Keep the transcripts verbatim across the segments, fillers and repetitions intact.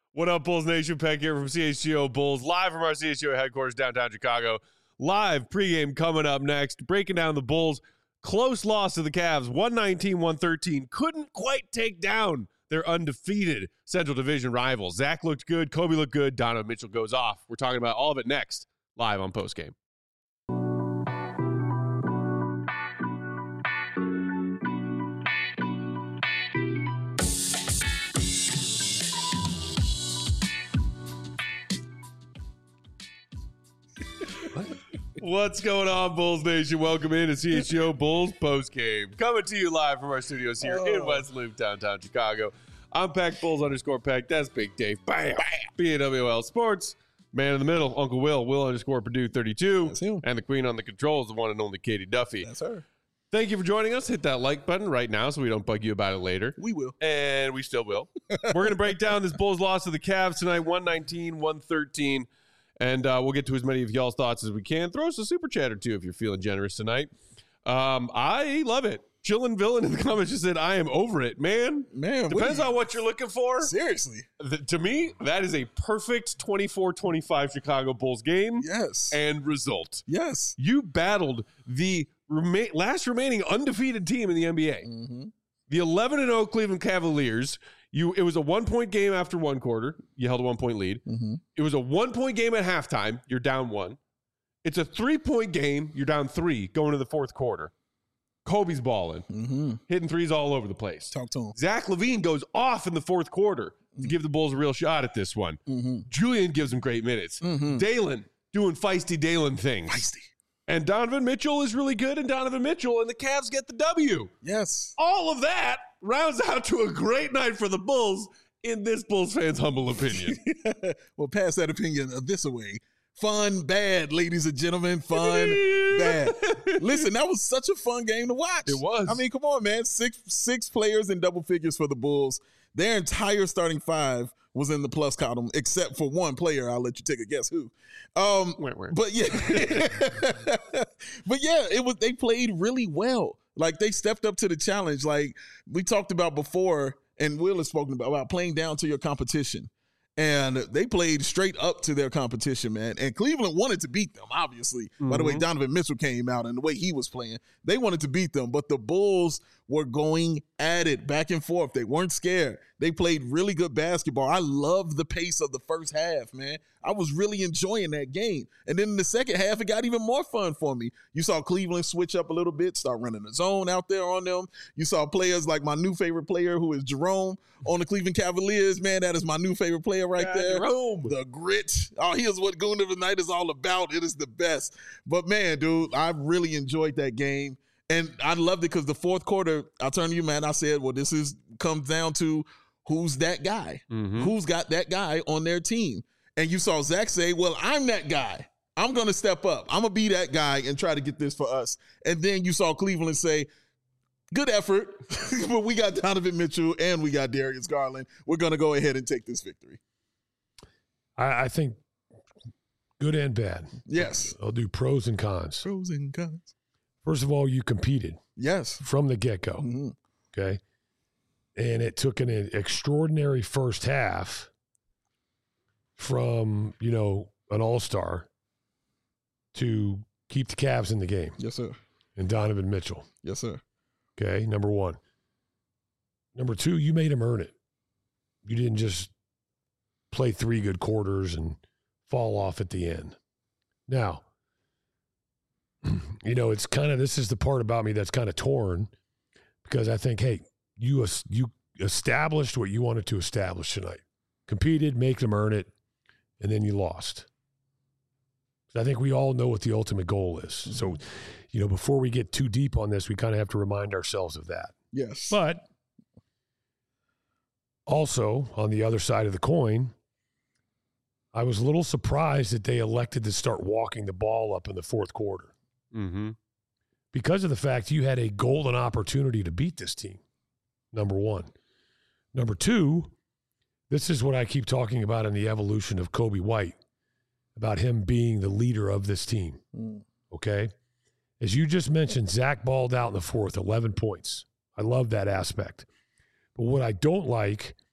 What up, Bulls Nation? Peck here from C H G O Bulls, live from our C H G O headquarters downtown Chicago. Live pregame coming up next, breaking down the Bulls' close loss to the Cavs, one nineteen one thirteen. Couldn't quite take down their undefeated Central Division rivals. Zach looked good, Kobe looked good, Donovan Mitchell goes off. We're talking about all of it next, live on Postgame. What's going on, Bulls Nation? Welcome in to C H G O Bulls Postgame. Coming to you live from our studios here oh. in West Loop, downtown Chicago. I'm Peck Bulls underscore Peck. That's Big Dave. Bam. Bam. B A W L Sports. Man in the middle, Uncle Will. Will underscore Purdue thirty-two. That's him. And the queen on the controls, the one and only Katie Duffy. That's her. Thank you for joining us. Hit that like button right now so we don't bug you about it later. We will. And we still will. We're going to break down this Bulls loss to the Cavs tonight, one nineteen one thirteen. And uh, we'll get to as many of y'all's thoughts as we can. Throw us a super chat or two if you're feeling generous tonight. Um, I love it. Chillin' Villain in the comments just said, I am over it. Man, Man, depends what on what you're looking for. Seriously. The, to me, that is a perfect twenty-four twenty-five Chicago Bulls game. Yes. And result. Yes. You battled the rema- last remaining undefeated team in the N B A. Mm-hmm. The eleven and oh Cleveland Cavaliers. You, it was a one-point game after one quarter. You held a one-point lead. Mm-hmm. It was a one-point game at halftime. You're down one. It's a three-point game. You're down three going to the fourth quarter. Kobe's balling, mm-hmm. hitting threes all over the place. Talk to him. Zach LaVine goes off in the fourth quarter mm-hmm. to give the Bulls a real shot at this one. Mm-hmm. Julian gives them great minutes. Mm-hmm. Dalen doing feisty Dalen things. Feisty. And Donovan Mitchell is really good, and Donovan Mitchell and the Cavs get the W. Yes. All of that rounds out to a great night for the Bulls, in this Bulls fans' humble opinion. Well, pass that opinion this away. Fun, bad, ladies and gentlemen. Fun, bad. Listen, that was such a fun game to watch. It was. I mean, come on, man. Six six players in double figures for the Bulls. Their entire starting five was in the plus column, except for one player. I'll let you take a guess who. Um, wait, wait. But yeah, but yeah, it was. They played really well. Like, they stepped up to the challenge. Like we talked about before, and Will has spoken about, about playing down to your competition. And they played straight up to their competition, man. And Cleveland wanted to beat them, obviously. Mm-hmm. By the way, Donovan Mitchell came out and the way he was playing, they wanted to beat them. But the Bulls were going at it back and forth. They weren't scared. They played really good basketball. I loved the pace of the first half, man. I was really enjoying that game. And then in the second half, it got even more fun for me. You saw Cleveland switch up a little bit, start running the zone out there on them. You saw players like my new favorite player, who is Jerome on the Cleveland Cavaliers. Man, that is my new favorite player right yeah, there. Jerome. The grit. Oh, here's what Goon of the Night is all about. It is the best. But man, dude, I really enjoyed that game. And I loved it because the fourth quarter, I'll turn to you, man. I said, well, this is comes down to who's that guy? Mm-hmm. Who's got that guy on their team? And you saw Zach say, well, I'm that guy. I'm going to step up. I'm going to be that guy and try to get this for us. And then you saw Cleveland say, good effort, but we got Donovan Mitchell and we got Darius Garland. We're going to go ahead and take this victory. I, I think good and bad. Yes. I'll do pros and cons. Pros and cons. First of all, you competed. Yes. From the get-go. Mm-hmm. Okay. And it took an extraordinary first half from, you know, an all-star to keep the Cavs in the game. Yes, sir. And Donovan Mitchell. Yes, sir. Okay, number one. Number two, you made him earn it. You didn't just play three good quarters and fall off at the end. Now, you know, it's kind of, this is the part about me that's kind of torn, because I think, hey, you you established what you wanted to establish tonight. Competed, make them earn it, and then you lost. I think we all know what the ultimate goal is. Mm-hmm. So, you know, before we get too deep on this, we kind of have to remind ourselves of that. Yes. But also, on the other side of the coin, I was a little surprised that they elected to start walking the ball up in the fourth quarter. Mm-hmm. Because of the fact you had a golden opportunity to beat this team, number one. Number two, this is what I keep talking about in the evolution of Kobe White, about him being the leader of this team, mm. okay? As you just mentioned, Zach balled out in the fourth, eleven points. I love that aspect. But what I don't like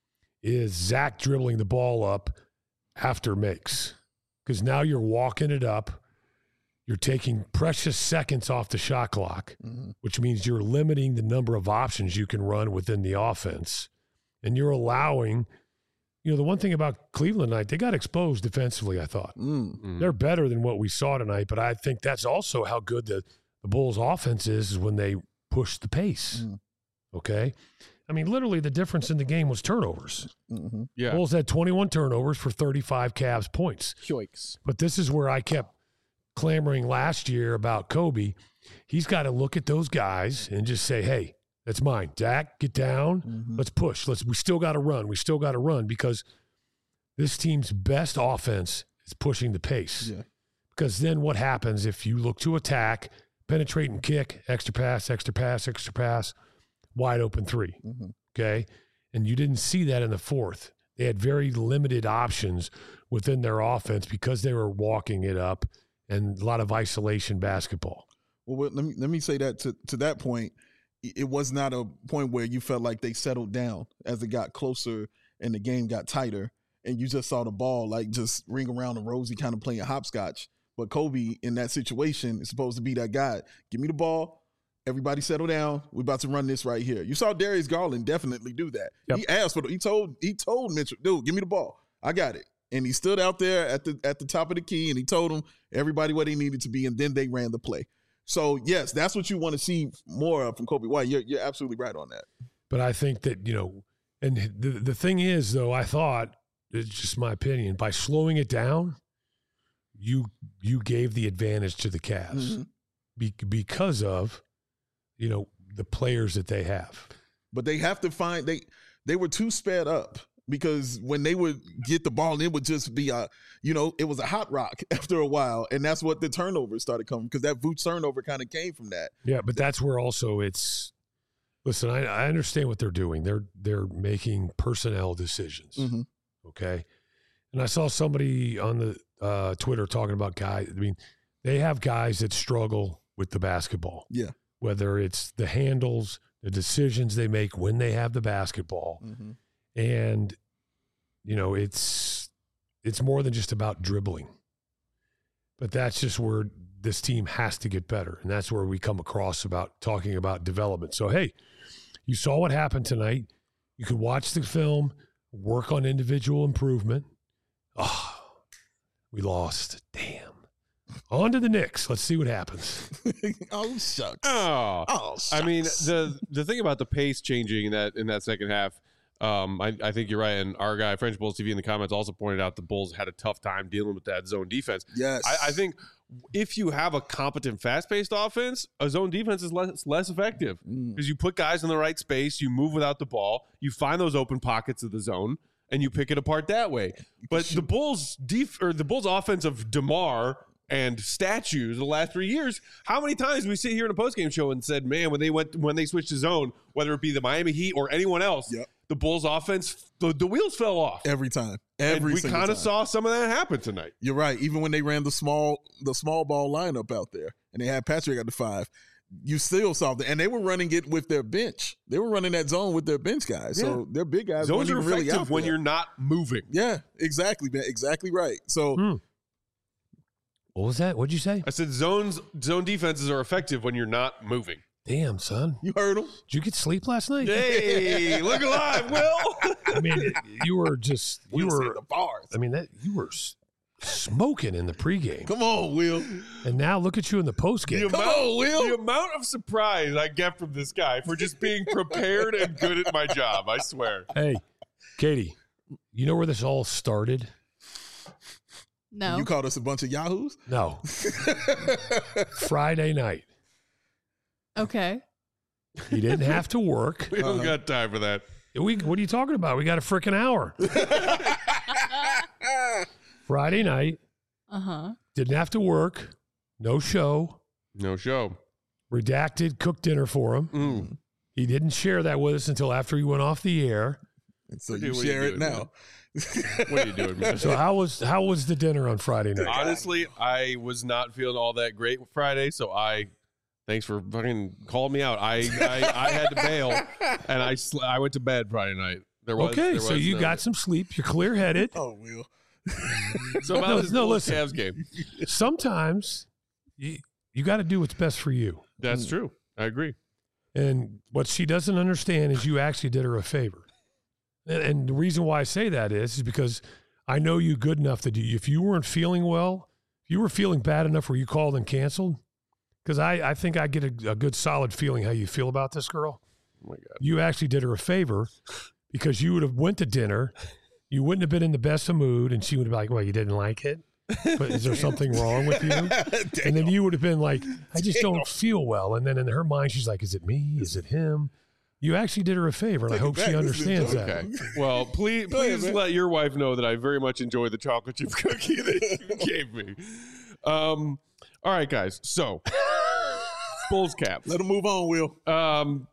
is Zach dribbling the ball up after makes. Because now you're walking it up. You're taking precious seconds off the shot clock, mm-hmm. which means you're limiting the number of options you can run within the offense. And you're allowing, you know, the one thing about Cleveland tonight, they got exposed defensively, I thought. Mm-hmm. They're better than what we saw tonight, but I think that's also how good the, the Bulls' offense is, is when they push the pace. Mm-hmm. Okay? I mean, literally the difference in the game was turnovers. Mm-hmm. Yeah. Bulls had twenty-one turnovers for thirty-five Cavs points. Yoicks. But this is where I kept clamoring last year about Kobe. He's got to look at those guys and just say, hey, that's mine. Zach, get down. Mm-hmm. Let's push. Let's. We still got to run. We still got to run because this team's best offense is pushing the pace. Yeah. Because then what happens if you look to attack, penetrate and kick, extra pass, extra pass, extra pass, wide open three, mm-hmm. okay? And you didn't see that in the fourth. They had very limited options within their offense because they were walking it up and a lot of isolation basketball. Well, let me let me say that to, to that point, it was not a point where you felt like they settled down as it got closer and the game got tighter and you just saw the ball like just ring around the rosy kind of playing hopscotch. But Kobe in that situation is supposed to be that guy. Give me the ball. Everybody settle down. We're about to run this right here. You saw Darius Garland definitely do that. Yep. He asked for the, he told he told Mitchell, dude, give me the ball. I got it. And he stood out there at the at the top of the key and he told them everybody what he needed to be, and then they ran the play. So yes, that's what you want to see more of from Kobe White. You're you're absolutely right on that. But I think that, you know, and the the thing is though, I thought, it's just my opinion, by slowing it down, you you gave the advantage to the Cavs mm-hmm. be, because of, you know, the players that they have. But they have to find they they were too sped up because when they would get the ball, it would just be a, you know, it was a hot rock after a while, and that's what the turnovers started coming because that Vooch turnover kind of came from that. Yeah, but that's where also it's. Listen, I, I understand what they're doing. They're they're making personnel decisions. Mm-hmm. Okay, and I saw somebody on the uh, Twitter talking about guys. I mean, they have guys that struggle with the basketball. Yeah. Whether it's the handles, the decisions they make when they have the basketball. Mm-hmm. And, you know, it's it's more than just about dribbling. But that's just where this team has to get better. And that's where we come across about talking about development. So, hey, you saw what happened tonight. You could watch the film, work on individual improvement. Oh, we lost. Damn. On to the Knicks. Let's see what happens. oh shucks. Oh, oh shucks. I mean, the the thing about the pace changing in that in that second half, um, I, I think you're right. And our guy, French Bulls T V, in the comments also pointed out the Bulls had a tough time dealing with that zone defense. Yes, I, I think if you have a competent, fast-paced offense, a zone defense is less less effective because mm. you put guys in the right space, you move without the ball, you find those open pockets of the zone, and you pick it apart that way. But the Bulls def- or the Bulls offense of DeMar and statues the last three years, how many times did we sit here in a postgame show and said, man, when they went when they switched to zone, whether it be the Miami Heat or anyone else, yep. the Bulls offense, the, the wheels fell off. Every time. Every and we kind of saw some of that happen tonight. You're right. Even when they ran the small the small ball lineup out there and they had Patrick at the five, you still saw that. And they were running it with their bench. They were running that zone with their bench guys. Yeah. So their big guys Zones are really effective out when there. You're not moving. Yeah, exactly, man. Exactly right. So hmm. What was that? What'd you say? I said zones, zone defenses are effective when you're not moving. Damn, son. You heard him. Did you get sleep last night? Hey, look alive, Will. I mean, you were just, you Will's were, the bars. I mean, that you were smoking in the pregame. Come on, Will. And now look at you in the postgame. The Come amount, on, Will. The amount of surprise I get from this guy for just being prepared and good at my job, I swear. Hey, Katie, you know where this all started? No. You called us a bunch of yahoos? No. Friday night. Okay. You didn't have to work. We don't Uh-huh. got time for that. We, what are you talking about? We got a freaking hour. Friday night. Uh-huh. Didn't have to work. No show. No show. Redacted cooked dinner for him. Mm. He didn't share that with us until after he went off the air. So Okay, you what are you share it doing, now. man? What are you doing, man? So how was how was the dinner on Friday night? Honestly, I was not feeling all that great Friday, so I thanks for fucking calling me out. I I, I had to bail, and I sl- I went to bed Friday night. There was, okay, there so was you no- got some sleep. You're clear-headed. Oh, Will. So about No, this no, Bulls listen. Cavs game. Sometimes you, you got to do what's best for you. That's true. I agree. And what she doesn't understand is you actually did her a favor. And, and the reason why I say that is, is because I know you good enough that you, if you weren't feeling well, if you were feeling bad enough where you called and canceled, because I, I think I get a, a good solid feeling how you feel about this girl. Oh my God. You actually did her a favor because you would have went to dinner. You wouldn't have been in the best of mood, and she would have been like, well, you didn't like it? But is there something wrong with you? And then you would have been like, I just don't feel well. And then in her mind, she's like, is it me? Is it him? You actually did her a favor, and Take I it hope back. she This is understands a that. Okay. Well, please, Go ahead, please man. let your wife know that I very much enjoy the chocolate chip cookie that you gave me. Um, all right, guys. So, Bulls Caps. Let him move on, Will. Um,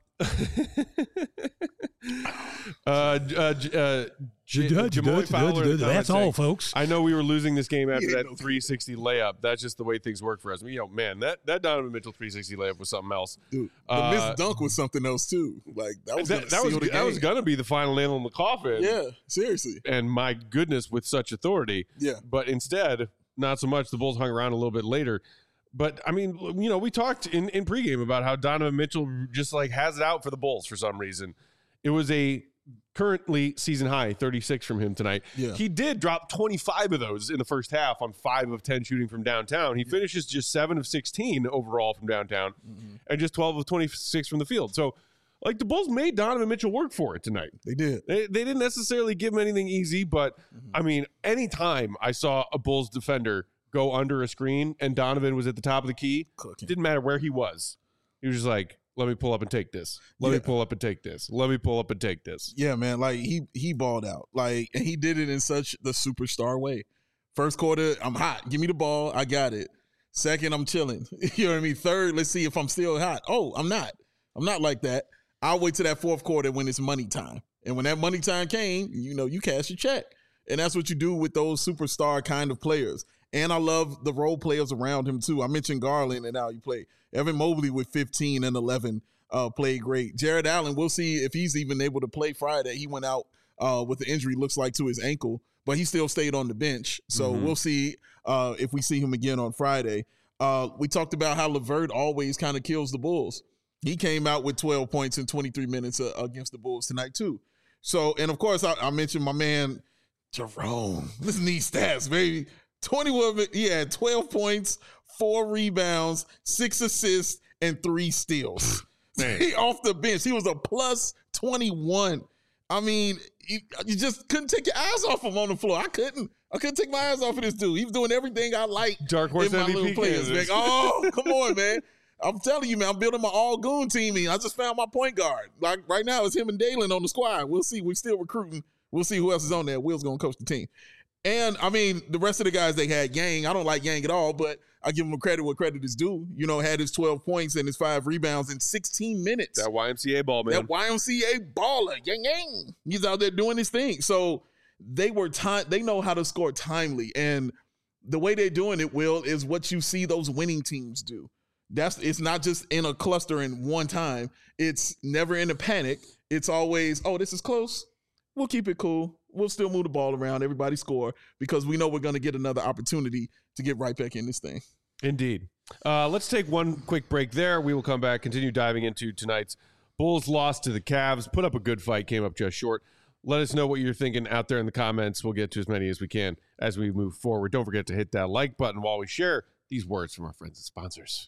uh, uh, J- uh, J- Jamoy Fowler in the That's comments all, saying, folks. I know we were losing this game after Yeah, that no. three sixty layup. That's just the way things work for us. I mean, you know, man, that, that Donovan Mitchell three sixty layup was something else. Dude, the Uh, missed dunk was something else, too. Like, that was That, gonna that was seal the that was game. going to be the final nail in the coffin. Yeah, seriously. And my goodness, with such authority. Yeah. But instead, not so much. The Bulls hung around a little bit later. But, I mean, you know, we talked in, in pregame about how Donovan Mitchell just, like, has it out for the Bulls for some reason. It was a currently season high thirty-six from him tonight. Yeah. He did drop twenty-five of those in the first half on five of ten shooting from downtown. He finishes just seven of sixteen overall from downtown Mm-hmm. and just twelve of twenty-six from the field. So, like, the Bulls made Donovan Mitchell work for it tonight. They did. They, they didn't necessarily give him anything easy, but I mean, anytime I saw a Bulls defender go under a screen and Donovan was at the top of the key, Cooking. didn't matter where he was. He was just like, let me pull up and take this. Let me Yeah. pull up and take this. Let me pull up and take this. Yeah, man. Like he he balled out. Like, and he did it in such the superstar way. First quarter, I'm hot. Give me the ball. I got it. Second, I'm chilling. You know what I mean? Third, let's see if I'm still hot. Oh, I'm not. I'm not like that. I'll wait till that fourth quarter when it's money time. And when that money time came, you know, you cash your check. And that's what you do with those superstar kind of players. And I love the role players around him too. I mentioned Garland and how you play. Evan Mobley with fifteen and eleven uh, played great. Jared Allen, we'll see if he's even able to play Friday. He went out uh, with the injury, looks like to his ankle, but he still stayed on the bench. So Mhm. we'll see uh, if we see him again on Friday. Uh, we talked about how LeVert always kind of kills the Bulls. He came out with twelve points in twenty-three minutes uh, against the Bulls tonight too. So, and of course, I, I mentioned my man Jerome. Listen to these stats, baby. twenty-one, he had twelve points, four rebounds, six assists, and three steals. He off the bench. He was a plus twenty-one. I mean, you, you just couldn't take your eyes off him on the floor. I couldn't. I couldn't take my eyes off of this dude. He was doing everything I like Dark horse in my M V P little players. Man. candidates. Oh, come on, man. I'm telling you, man, I'm building my all-goon team. I just found my point guard. Like right now, it's him and Dalen on the squad. We'll see. We're still recruiting. We'll see who else is on there. Will's going to coach the team. And, I mean, the rest of the guys they had, Yang, I don't like Yang at all, but I give him credit where credit is due. You know, had his twelve points and his five rebounds in sixteen minutes. That Y M C A ball, man. That Y M C A baller, Yang Yang. He's out there doing his thing. So they were time. They know how to score timely, and the way they're doing it, Will, is what you see those winning teams do. That's it's not just in a cluster in one time. It's never in a panic. It's always, oh, this is close. We'll keep it cool. We'll still move the ball around. Everybody score because we know we're going to get another opportunity to get right back in this thing. Indeed. Uh, let's take one quick break there. We will come back, continue diving into tonight's Bulls loss to the Cavs. Put up a good fight, came up just short. Let us know what you're thinking out there in the comments. We'll get to as many as we can as we move forward. Don't forget to hit that like button while we share these words from our friends and sponsors.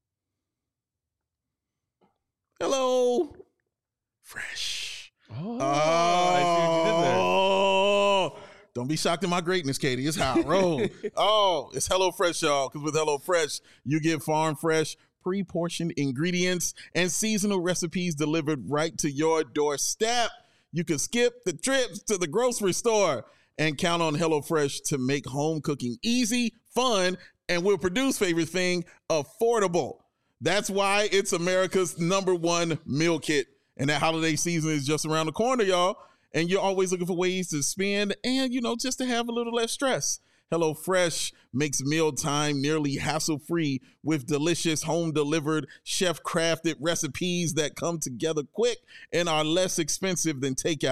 Hello. Fresh. Oh, Oh, I see what you did there. Oh, don't be shocked at my greatness, Katie. It's how I roll. Oh, it's HelloFresh, y'all. Because with HelloFresh, you get farm fresh, pre-portioned ingredients and seasonal recipes delivered right to your doorstep. You can skip the trips to the grocery store and count on HelloFresh to make home cooking easy, fun, and will produce favorite thing affordable. That's why it's America's number one meal kit. And that holiday season is just around the corner, y'all. And you're always looking for ways to spend and, you know, just to have a little less stress. HelloFresh makes mealtime nearly hassle-free with delicious home-delivered, chef-crafted recipes that come together quick and are less expensive than takeout.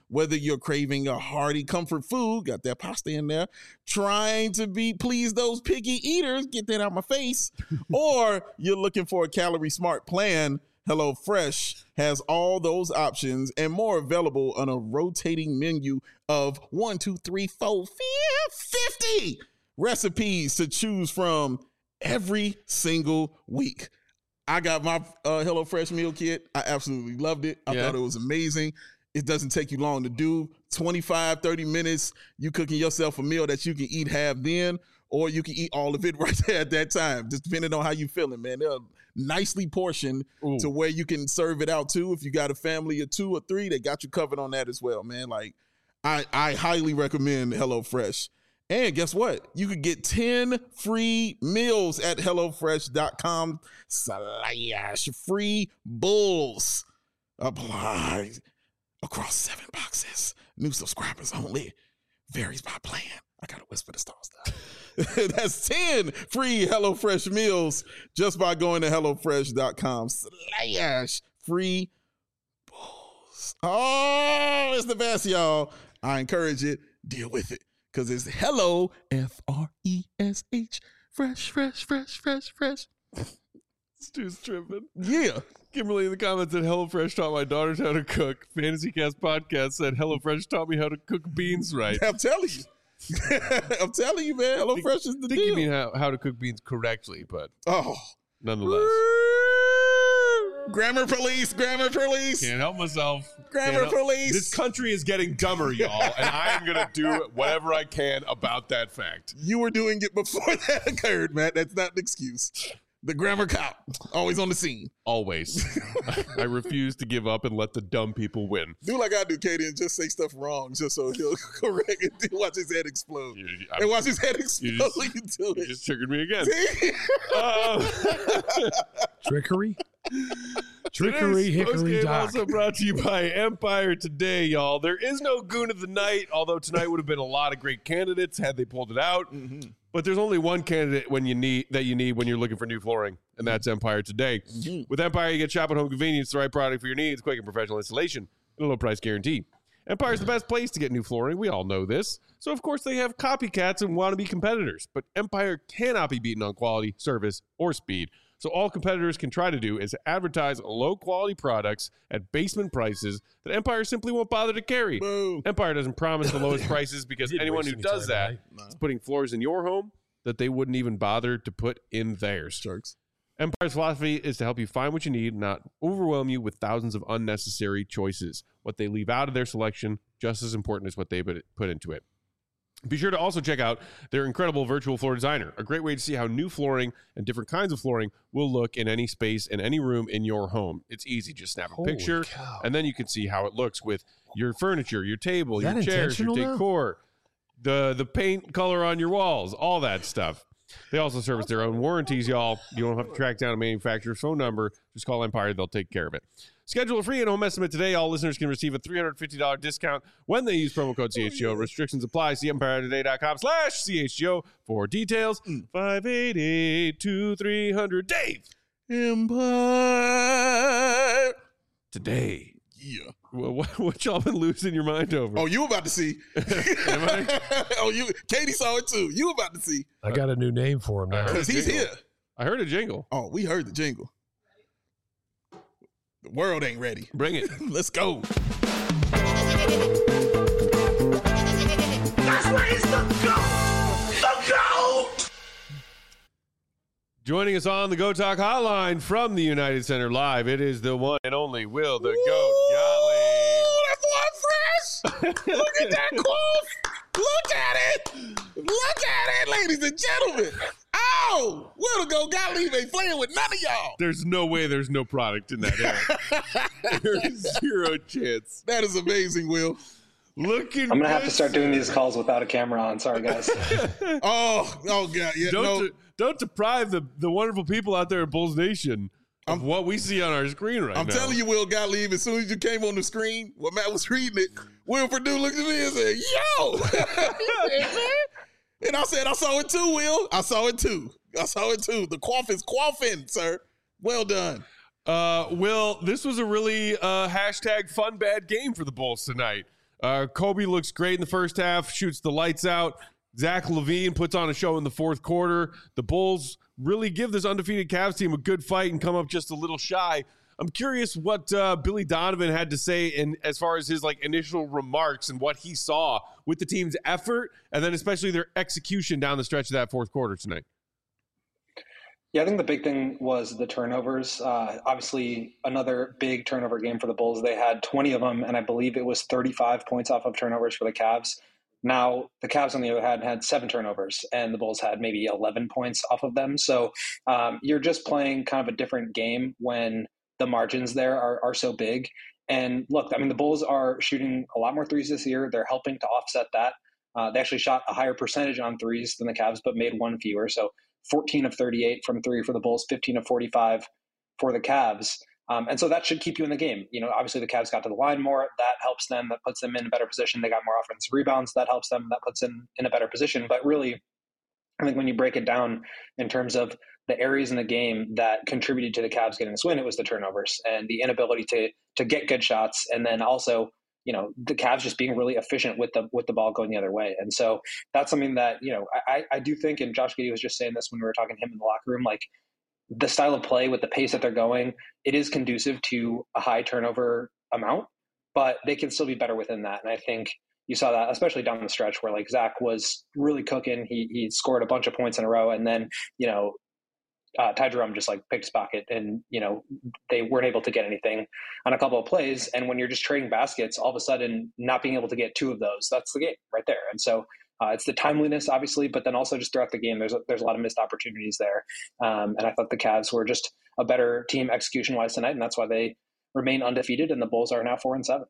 Whether you're craving a hearty comfort food, got that pasta in there, trying to be please those picky eaters, get that out my face, or you're looking for a calorie smart plan, HelloFresh has all those options and more available on a rotating menu of one, two, three, four, fifty recipes to choose from every single week. I got my uh, HelloFresh meal kit. I absolutely loved it. I Yeah. thought it was amazing. It doesn't take you long to do. twenty-five, thirty minutes, you cooking yourself a meal that you can eat half then, or you can eat all of it right there at that time, just depending on how you feeling, man. They're nicely portioned Ooh. to where you can serve it out too. If you got a family of two or three, they got you covered on that as well, man. Like, I, I highly recommend HelloFresh. And guess what? You could get ten free meals at HelloFresh.com slash free bulls. Apply across seven boxes. New subscribers only. Varies by plan. I gotta whisper the star stuff. That's ten free HelloFresh meals just by going to HelloFresh.com slash free bulls. Oh, it's the best, y'all. I encourage it. Deal with it. Because it's hello, F R E S H, fresh, fresh, fresh, fresh, fresh. Stu's tripping. Yeah. Kimberly in the comments said HelloFresh taught my daughters how to cook. Fantasy Cast Podcast said HelloFresh taught me how to cook beans right. I'm telling you. I'm telling you, man. HelloFresh is the I think deal. you mean how, how to cook beans correctly, but oh. nonetheless. Grammar police, grammar police, Can't help myself. grammar Can't help- police. This country is getting dumber, y'all, and I am going to do whatever I can about that fact. You were doing it before that occurred, Matt. That's not an excuse. The grammar cop, always on the scene. Always. I refuse to give up and let the dumb people win. Do like I do, Katie, and just say stuff wrong just so he'll correct it. Watch his head explode. You, And watch his head explode just- when you do you it. just triggered me again. Um, Trickery? Trickery, Today's hickory, postgame dock. also brought to you by Empire Today, y'all. There is no Goon of the Night, although tonight would have been a lot of great candidates had they pulled it out. Mm-hmm. But there's only one candidate when you need that you need when you're looking for new flooring, and that's Empire Today. Mm-hmm. With Empire, you get shop at home convenience, the right product for your needs, quick and professional installation, and a low price guarantee. Empire's the best place to get new flooring. We all know this. So, of course, they have copycats and wannabe competitors. But Empire cannot be beaten on quality, service, or speed. So all competitors can try to do is advertise low-quality products at basement prices that Empire simply won't bother to carry. Boom. Empire doesn't promise the lowest prices because Didn't anyone waste who any does time that tonight. No. is putting floors in your home that they wouldn't even bother to put in theirs. Jerks. Empire's philosophy is to help you find what you need, not overwhelm you with thousands of unnecessary choices. What they leave out of their selection, just as important as what they put put into it. Be sure to also check out their incredible virtual floor designer, a great way to see how new flooring and different kinds of flooring will look in any space in any room in your home. It's easy. Just snap a Holy picture, cow. and then you can see how it looks with your furniture, your table, Is your that chairs, your intentional now? decor, the, the paint color on your walls, all that stuff. They also service their own warranties, y'all. You don't have to track down a manufacturer's phone number. Just call Empire. They'll take care of it. Schedule a free in-home estimate today. All listeners can receive a three hundred fifty dollars discount when they use promo code C H G O. Restrictions apply. See empire today dot com slash C H G O for details. five eight eight, two three hundred Dave. Empire. Today. Yeah. What, what, what y'all been losing your mind over? Oh, you about to see. Am I? oh, you. Katie saw it too. You about to see. I got a new name for him now. Because he's here. I heard a jingle. Oh, we heard the jingle. The world ain't ready. Bring it. Let's go. That's where he's the goat! The goat! Joining us on the Go Talk Hotline from the United Center Live, it is the one and only Will the Goat Ooh, that's one fresh. Look at that quote. Look at it. Look at it, ladies and gentlemen. Oh, Will the Goat Gottlieb ain't playing with none of y'all. There's no way there's no product in that era. There's zero chance. That is amazing, Will. Looking I'm gonna have to good. start doing these calls without a camera on. Sorry, guys. Oh, oh God, yeah, Don't no. de- don't deprive the, the wonderful people out there at Bulls Nation of what we see on our screen right I'm now. telling you, Will Gottlieb, as soon as you came on the screen, when Matt was reading it, Will Purdue looked at me and said, yo! He said, "Man." And I said, I saw it too, Will. I saw it too. I saw it too. The quaff is quaffing, sir. Well done. Uh, Will, this was a really uh, hashtag fun bad game for the Bulls tonight. Uh, Kobe looks great in the first half, shoots the lights out. Zach LaVine puts on a show in the fourth quarter. The Bulls really give this undefeated Cavs team a good fight and come up just a little shy. I'm curious what uh, Billy Donovan had to say in as far as his like initial remarks and what he saw with the team's effort and then especially their execution down the stretch of that fourth quarter tonight. Yeah, I think the big thing was the turnovers. Uh, obviously, another big turnover game for the Bulls. They had twenty of them, and I believe it was thirty-five points off of turnovers for the Cavs. Now, the Cavs, on the other hand, had seven turnovers, and the Bulls had maybe eleven points off of them. So um, you're just playing kind of a different game when the margins there are, are so big. And look, I mean, the Bulls are shooting a lot more threes this year. They're helping to offset that. Uh, they actually shot a higher percentage on threes than the Cavs, but made one fewer. So fourteen of thirty-eight from three for the Bulls, fifteen of forty-five for the Cavs. Um, and so that should keep you in the game. You know, obviously the Cavs got to the line more. That helps them. That puts them in a better position. They got more offensive rebounds. That helps them. That puts them in a better position. But really, I think when you break it down in terms of the areas in the game that contributed to the Cavs getting this win, it was the turnovers and the inability to to get good shots. And then also, you know, the Cavs just being really efficient with the with the ball going the other way. And so that's something that, you know, I, I do think, and Josh Giddey was just saying this when we were talking to him in the locker room, like the style of play with the pace that they're going, it is conducive to a high turnover amount, but they can still be better within that. And I think you saw that, especially down the stretch where like Zach was really cooking. He he scored a bunch of points in a row. And then, you know, Uh, Ty Jerome just like picked his pocket and, you know, they weren't able to get anything on a couple of plays. And when you're just trading baskets, all of a sudden not being able to get two of those, that's the game right there. And so uh, it's the timeliness, obviously, but then also just throughout the game, there's a, there's a lot of missed opportunities there. Um, and I thought the Cavs were just a better team execution wise tonight. And that's why they remain undefeated. And the Bulls are now four and seven.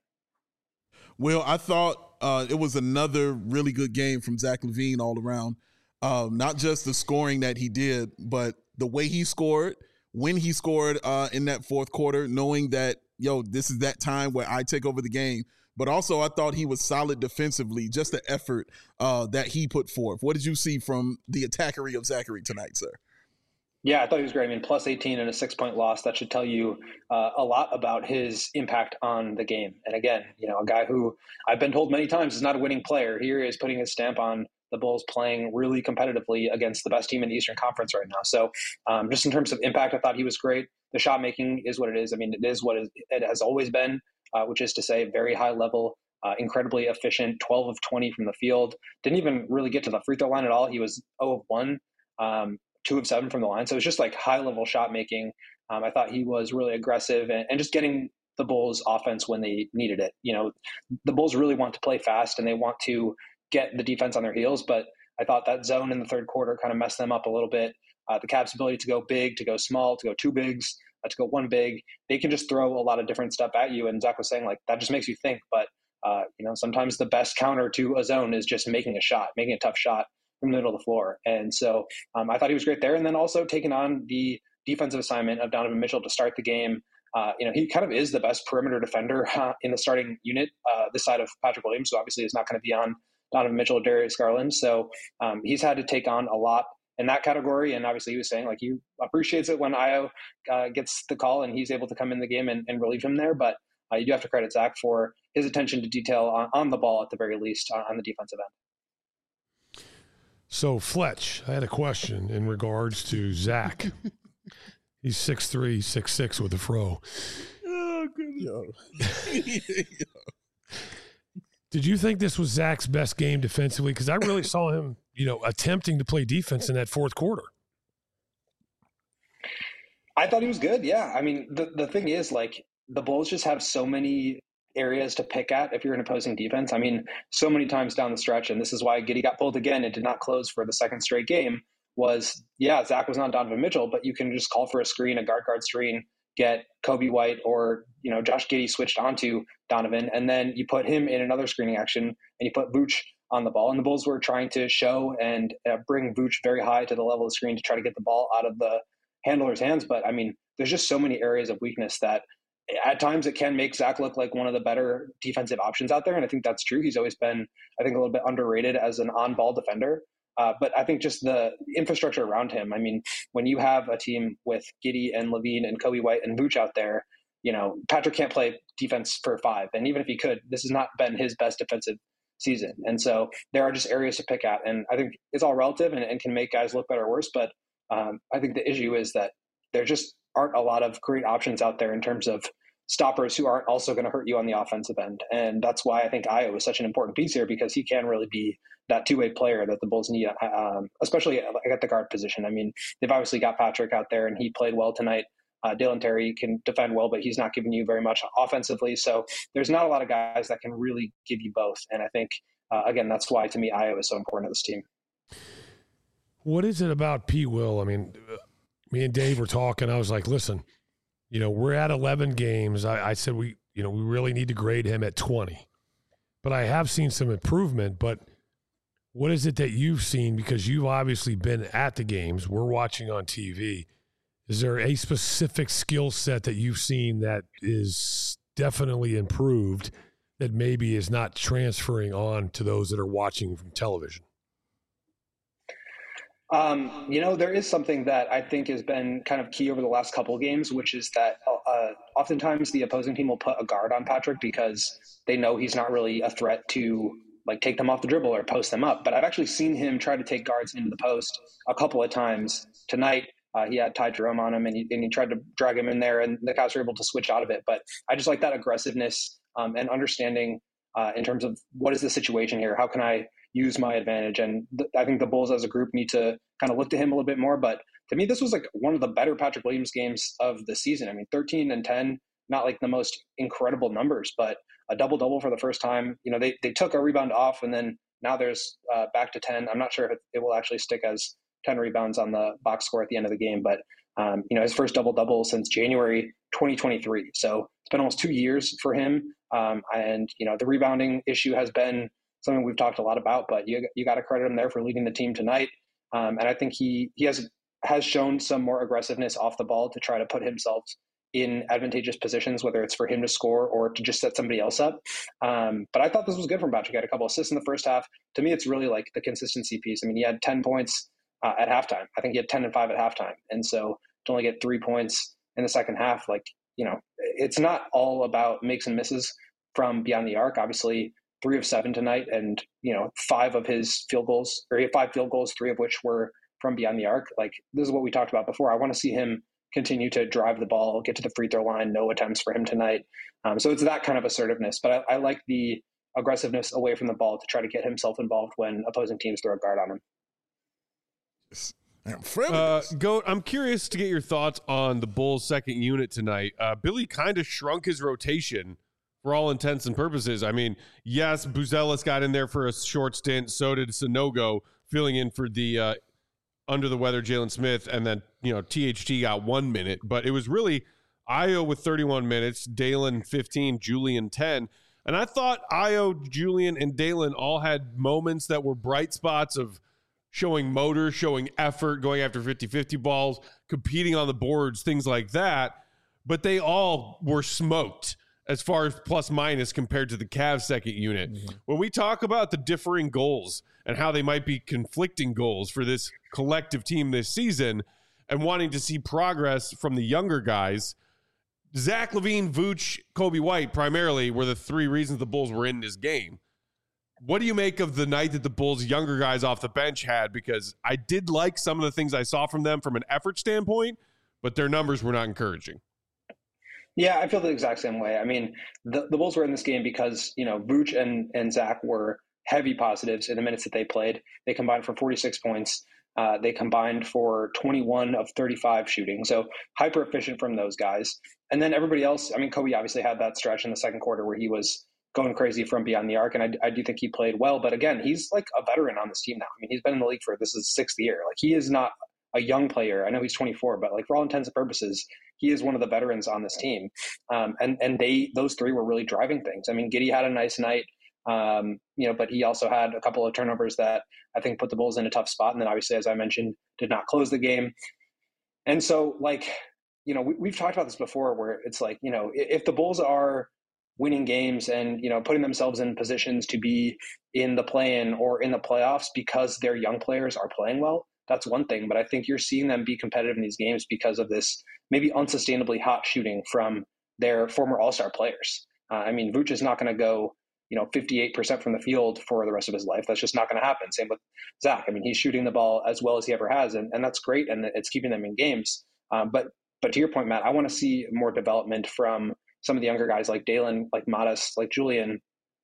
Well, I thought uh, it was another really good game from Zach LaVine all around. Um, not just the scoring that he did, but the way he scored, when he scored uh, in that fourth quarter, knowing that, yo, this is that time where I take over the game. But also I thought he was solid defensively, just the effort uh, that he put forth. What did you see from the attackery of Zachary tonight, sir? Yeah, I thought he was great. I mean, plus eighteen and a six-point loss, that should tell you uh, a lot about his impact on the game. And again, you know, a guy who I've been told many times is not a winning player. Here he is putting his stamp on the Bulls playing really competitively against the best team in the Eastern Conference right now. So um, just in terms of impact, I thought he was great. The shot making is what it is. I mean, it is what it has always been, uh, which is to say very high level, uh, incredibly efficient, twelve of twenty from the field. Didn't even really get to the free throw line at all. He was zero of one, um, two of seven from the line. So it was just like high level shot making. Um, I thought he was really aggressive and, and just getting the Bulls offense when they needed it. You know, the Bulls really want to play fast and they want to get the defense on their heels, but I thought that zone in the third quarter kind of messed them up a little bit. Uh, the Cavs' ability to go big, to go small, to go two bigs, uh, to go one big, they can just throw a lot of different stuff at you. And Zach was saying, like, that just makes you think. But, uh, you know, sometimes the best counter to a zone is just making a shot, making a tough shot from the middle of the floor. And so um, I thought he was great there. And then also taking on the defensive assignment of Donovan Mitchell to start the game. Uh, you know, he kind of is the best perimeter defender uh, in the starting unit, uh, this side of Patrick Williams, who obviously is not going to be on Donovan Mitchell, Darius Garland. So um, he's had to take on a lot in that category. And obviously he was saying like he appreciates it when Ayo uh, gets the call and he's able to come in the game and, and relieve him there. But uh, you do have to credit Zach for his attention to detail on, on the ball at the very least on, on the defensive end. So Fletch, I had a question in regards to Zach. He's six three, six six with a fro. Oh, good. Did you think this was Zach's best game defensively? Because I really saw him, you know, attempting to play defense in that fourth quarter. I thought he was good. Yeah. I mean, the, the thing is, like, the Bulls just have so many areas to pick at if you're an opposing defense. I mean, so many times down the stretch, and this is why Giddey got pulled again and did not close for the second straight game, was, yeah, Zach was not Donovan Mitchell, but you can just call for a screen, a guard-guard screen, get Kobe White or, you know, Josh Giddey switched onto Donovan, and then you put him in another screening action, and you put Vooch on the ball. And the Bulls were trying to show and uh, bring Vooch very high to the level of the screen to try to get the ball out of the handler's hands. But, I mean, there's just so many areas of weakness that at times it can make Zach look like one of the better defensive options out there. And I think that's true. He's always been, I think, a little bit underrated as an on-ball defender. Uh, but I think just the infrastructure around him, I mean, when you have a team with Giddey and LaVine and Kobe White and Vooch out there, you know, Patrick can't play defense for five. And even if he could, this has not been his best defensive season. And so there are just areas to pick at. And I think it's all relative and, and can make guys look better or worse. But um, I think the issue is that there just aren't a lot of great options out there in terms of stoppers who aren't also going to hurt you on the offensive end. And that's why I think Ayo is such an important piece here, because he can really be that two-way player that the Bulls need, um, especially at the guard position. I mean, they've obviously got Patrick out there, and he played well tonight. Uh, Dalen Terry can defend well, but he's not giving you very much offensively. So there's not a lot of guys that can really give you both. And I think, uh, again, that's why, to me, Ayo is so important to this team. What is it about P. Will? I mean, me and Dave were talking. I was like, listen, you know, we're at eleven games. I, I said we, you know, we really need to grade him at twenty. But I have seen some improvement. But what is it that you've seen? Because you've obviously been at the games. We're watching on T V. Is there a specific skill set that you've seen that is definitely improved that maybe is not transferring on to those that are watching from television? Um, you know, there is something that I think has been kind of key over the last couple of games, which is that uh, oftentimes the opposing team will put a guard on Patrick because they know he's not really a threat to like take them off the dribble or post them up. But I've actually seen him try to take guards into the post a couple of times tonight. Uh, he had Ty Jerome on him, and he, and he tried to drag him in there, and the Cavs were able to switch out of it. But I just like that aggressiveness um, and understanding uh, in terms of what is the situation here? How can I use my advantage? And th- I think the Bulls as a group need to kind of look to him a little bit more. But to me, this was like one of the better Patrick Williams games of the season. I mean, thirteen and ten, not like the most incredible numbers, but a double-double for the first time. You know, they, they took a rebound off, and then now there's uh, back to ten. I'm not sure if it, it will actually stick as ten rebounds on the box score at the end of the game, but um, you know, his first double-double since January twenty twenty-three. So it's been almost two years for him. Um, and, you know, the rebounding issue has been something we've talked a lot about, but you you got to credit him there for leading the team tonight. Um, and I think he, he has, has shown some more aggressiveness off the ball to try to put himself in advantageous positions, whether it's for him to score or to just set somebody else up. Um, but I thought this was good from Patrick. He had a couple assists in the first half. To me, it's really like the consistency piece. I mean, he had ten points uh, at halftime. I think he had ten and five at halftime. And so to only get three points in the second half, like, you know, it's not all about makes and misses from beyond the arc. Obviously, three of seven tonight, and, you know, five of his field goals, or he had five field goals, three of which were from beyond the arc. Like, this is what we talked about before. I want to see him continue to drive the ball, get to the free throw line, no attempts for him tonight. Um, so it's that kind of assertiveness. But I, I like the aggressiveness away from the ball to try to get himself involved when opposing teams throw a guard on him. Uh, Goat, I'm curious to get your thoughts on the Bulls' second unit tonight. Uh, Billy kind of shrunk his rotation for all intents and purposes. I mean, yes, Buzelis got in there for a short stint. So did Sanogo, filling in for the uh, under the weather Jalen Smith, and then, you know, T H T got one minute. But it was really Ayo with thirty-one minutes, Dalen fifteen, Julian ten. And I thought Ayo, Julian, and Dalen all had moments that were bright spots of showing motor, showing effort, going after fifty-fifty balls, competing on the boards, things like that. But they all were smoked as far as plus minus compared to the Cavs second unit. Mm-hmm. When we talk about the differing goals and how they might be conflicting goals for this collective team this season and wanting to see progress from the younger guys, Zach LaVine, Vooch, Kobe White primarily were the three reasons the Bulls were in this game. What do you make of the night that the Bulls' younger guys off the bench had? Because I did like some of the things I saw from them from an effort standpoint, but their numbers were not encouraging. Yeah, I feel the exact same way. I mean, the, the Bulls were in this game because, you know, Vooch and, and Zach were heavy positives in the minutes that they played. They combined for forty-six points. Uh, they combined for twenty-one of thirty-five shooting. So hyper efficient from those guys. And then everybody else, I mean, Kobe obviously had that stretch in the second quarter where he was going crazy from beyond the arc. And I, I do think he played well. But again, he's like a veteran on this team now. I mean, he's been in the league for, this is his sixth year. Like, he is not a young player. I know he's twenty-four, but like, for all intents and purposes, he is one of the veterans on this team. Um, and, and they, those three were really driving things. I mean, Giddey had a nice night, um, you know, but he also had a couple of turnovers that I think put the Bulls in a tough spot. And then obviously, as I mentioned, did not close the game. And so, like, you know, we, we've talked about this before where it's like, you know, if the Bulls are winning games and, you know, putting themselves in positions to be in the play-in or in the playoffs because their young players are playing well, that's one thing. But I think you're seeing them be competitive in these games because of this maybe unsustainably hot shooting from they're former All-Star players. Uh, I mean, Vooch is not going to go, you know, fifty-eight percent from the field for the rest of his life. That's just not going to happen. Same with Zach. I mean, he's shooting the ball as well as he ever has, and, and that's great, and it's keeping them in games. Um, but but to your point, Matt, I want to see more development from some of the younger guys like Dalen, like Modest, like Julian.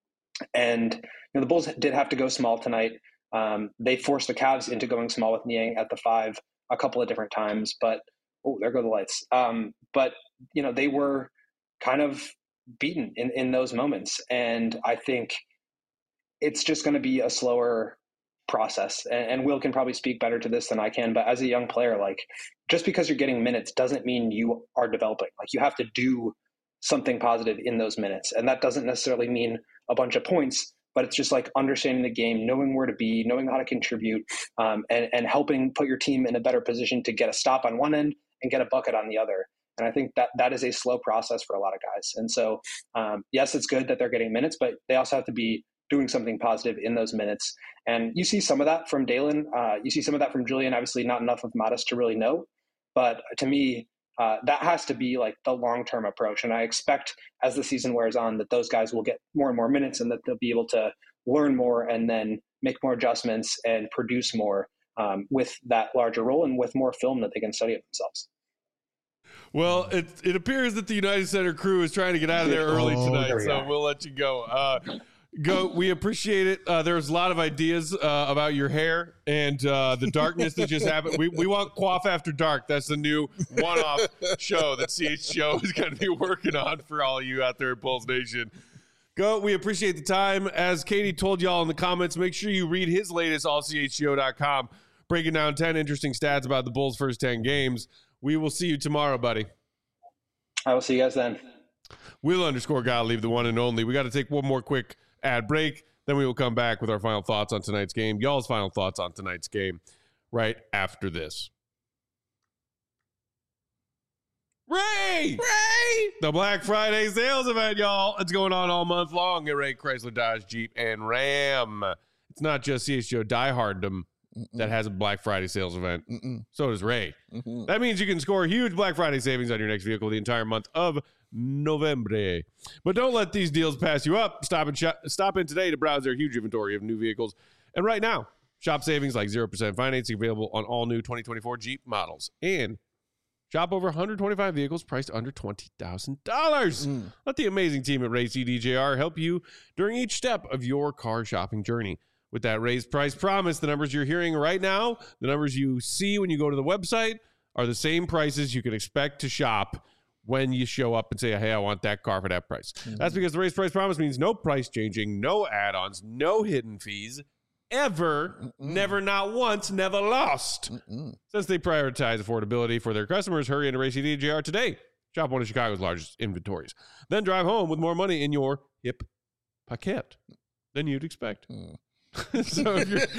And you know, the Bulls did have to go small tonight. Um, they forced the Cavs into going small with Niang at the five a couple of different times, but oh, there go the lights. Um, but you know, they were kind of beaten in, in those moments. And I think it's just going to be a slower process. And, and Will can probably speak better to this than I can, but as a young player, like just because you're getting minutes doesn't mean you are developing. Like you have to do something positive in those minutes. And that doesn't necessarily mean a bunch of points, but it's just like understanding the game, knowing where to be, knowing how to contribute, um, and, and helping put your team in a better position to get a stop on one end and get a bucket on the other. And I think that that is a slow process for a lot of guys. And so, um, yes, it's good that they're getting minutes, but they also have to be doing something positive in those minutes. And you see some of that from Dalen. Uh, you see some of that from Julian, obviously not enough of Modest to really know. But to me, uh, that has to be like the long-term approach. And I expect as the season wears on that those guys will get more and more minutes and that they'll be able to learn more and then make more adjustments and produce more um, with that larger role and with more film that they can study of themselves. Well, it it appears that the United Center crew is trying to get out of there early Oh, tonight, there we so are. we'll let you go. Uh, go. We appreciate it. Uh, there's a lot of ideas uh, about your hair and uh, the darkness that just happened. We we want Quaff After Dark. That's the new one-off show that C H G O is going to be working on for all of you out there at Bulls Nation. Go. We appreciate the time. As Katie told y'all in the comments, make sure you read his latest all C H G O dot com, breaking down ten interesting stats about the Bulls' first ten games. We will see you tomorrow, buddy. I will see you guys then. Will underscore gotta leave the one and only. We got to take one more quick ad break. Then we will come back with our final thoughts on tonight's game. Y'all's final thoughts on tonight's game right after this. Ray! Ray! The Black Friday sales event, y'all. It's going on all month long at Ray Chrysler Dodge Jeep and Ram. It's not just C H G O dieharddom that has a Black Friday sales event. Mm-mm. So does Ray. Mm-hmm. That means you can score huge Black Friday savings on your next vehicle the entire month of November. But don't let these deals pass you up. Stop and shop, stop in today to browse their huge inventory of new vehicles. And right now, shop savings like zero percent financing available on all new twenty twenty-four Jeep models. And shop over one hundred twenty-five vehicles priced under twenty thousand dollars. Mm. Let the amazing team at Ray C D J R help you during each step of your car shopping journey. With that raised price promise, the numbers you're hearing right now, the numbers you see when you go to the website, are the same prices you can expect to shop when you show up and say, hey, I want that car for that price. Mm-hmm. That's because the raised price promise means no price changing, no add-ons, no hidden fees, ever, Mm-mm. never, not once, never lost. Mm-mm. Since they prioritize affordability for their customers, hurry into Ray C D J R today. Shop one of Chicago's largest inventories. Then drive home with more money in your hip pocket than you'd expect. Mm. So if you're,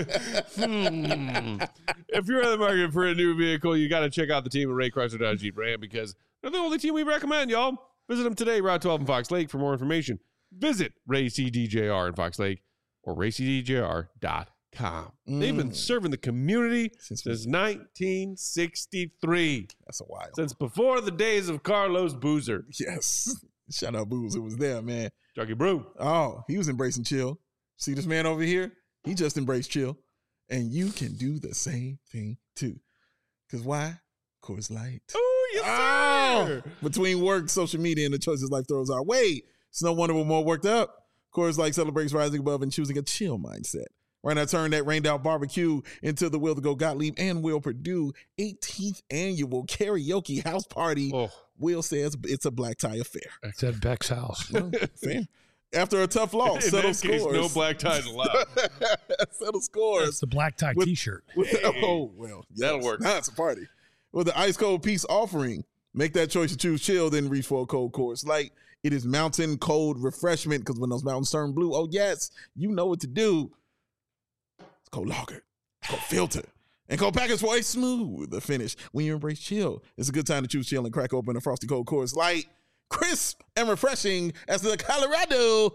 hmm, if you're in the market for a new vehicle, you got to check out the team at Ray Chrysler Dodge Jeep Ram because they're the only team we recommend, y'all. Visit them today, Route twelve in Fox Lake. For more information, visit Ray C D J R in Fox Lake or ray c d j r dot com. Mm. They've been serving the community since, since nineteen sixty-three. That's a while. Since before the days of Carlos Boozer. Yes. Shout out Booze. It was there, man. Chucky Brew. Oh, he was embracing chill. See this man over here? He just embraced chill. And you can do the same thing too. Because why? Coors Light. Oh, yes, sir. Oh, between work, social media, and the choices life throws our way, it's no wonder we're more worked up. Coors Light celebrates rising above and choosing a chill mindset. Right now, turn that rained out barbecue into the Will to Go Gottlieb and Will Purdue eighteenth annual karaoke house party. Oh. Will says it's a black tie affair. It's at Beck's house. Oh, fair. After a tough loss, in settle that case, scores. no black ties allowed. Settle scores. That's the black tie with, T-shirt. With, hey, oh well, yes. That'll work. Now it's a party with the ice cold peace offering. Make that choice to choose chill, then reach for a cold Coors Light. It is mountain cold refreshment because when those mountains turn blue, oh yes, you know what to do. It's cold lager, cold filter, and cold package for a smooth finish. When you embrace chill, it's a good time to choose chill and crack open a frosty cold Coors Light. Crisp and refreshing as the Colorado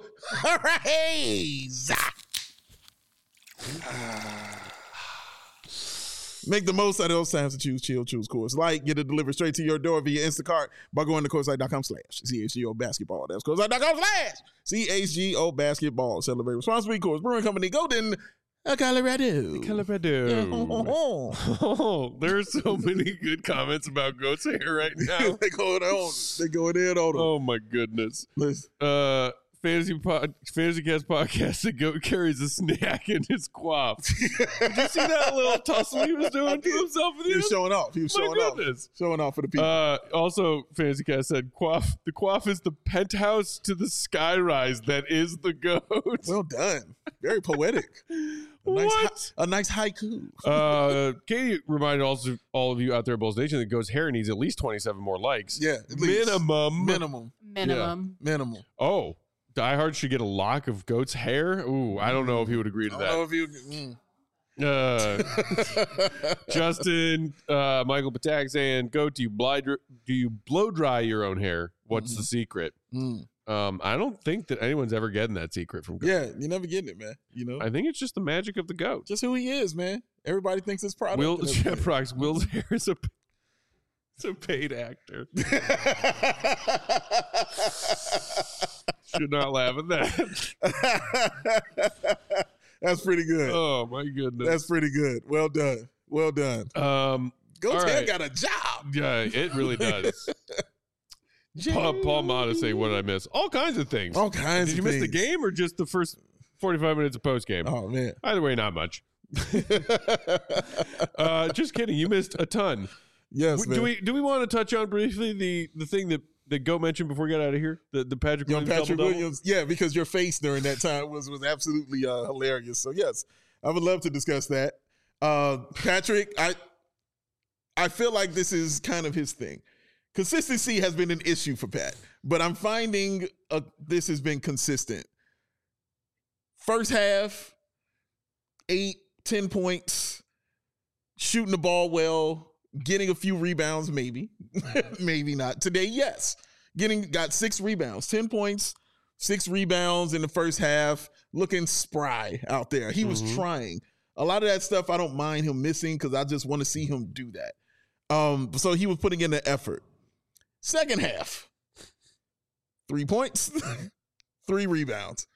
Rays. Make the most out of those times to choose chill, choose Coors Light. Get it delivered straight to your door via Instacart by going to CoorsLight.com slash C H G O basketball. That's CoorsLight.com slash C H G O basketball. Celebrate responsibly. Coors Brewing Company, Golden, Colorado. Colorado. Oh, there's so many good comments about Goat's hair right now. They going on. They going in on them. Oh my goodness. Listen. Uh, fantasy pod, fantasy cast podcast. The Goat carries a snack in his quaff. Did you see that little tussle he was doing to himself? He was showing off. He was My showing off. goodness. Showing off for the people. Uh, also, Fantasy Cast said, quaff, the quaff is the penthouse to the skyrise that is the Goat. Well done. Very poetic. A nice, What? hi- a nice haiku. Uh, Katie reminded also all of you out there at Bulls Nation that Goat's hair needs at least twenty-seven more likes. Yeah, at least. Minimum. Minimum. Minimum. Minimum. Oh, Die Hard should get a lock of Goat's hair? Ooh, I don't know if he would agree to I don't know that. if you. Mm. Uh, Justin, uh, Michael Patak saying, Goat, do you, blind, do you blow dry your own hair? What's the secret? Mm. Um, I don't think that anyone's ever getting that secret from Goat. Yeah, you're never getting it, man. You know, I think it's just the magic of the Goat. just who he is, man. Everybody thinks it's product. Will and everything. Sheprox, Will's hair is a, it's a paid actor. Should not laugh at that. That's pretty good. Oh my goodness. That's pretty good. Well done. Well done. um Goat's all hair right. got a job. yeah, it really does. Paul, Paul Mata say, what did I miss? All kinds of things. All kinds Did you of miss the things. game or just the first forty-five minutes of post game? Oh man. Either way, not much. uh, just kidding. You missed a ton. Yes, man. Do we do we want to touch on briefly the the thing that that Go mentioned before we got out of here? The the Patrick Young Williams Patrick double-double? Williams, yeah, because your face during that time was was absolutely uh, hilarious. So yes, I would love to discuss that. Uh, Patrick, I I feel like this is kind of his thing. Consistency has been an issue for Pat, but I'm finding uh, this has been consistent. First half, eight, ten points, shooting the ball well, getting a few rebounds, maybe, maybe not. Today, yes. Getting got six rebounds, ten points, six rebounds in the first half, looking spry out there. He was Mhm. trying. A lot of that stuff I don't mind him missing because I just want to see him do that. Um, so he was putting in the effort. Second half, three points, three rebounds.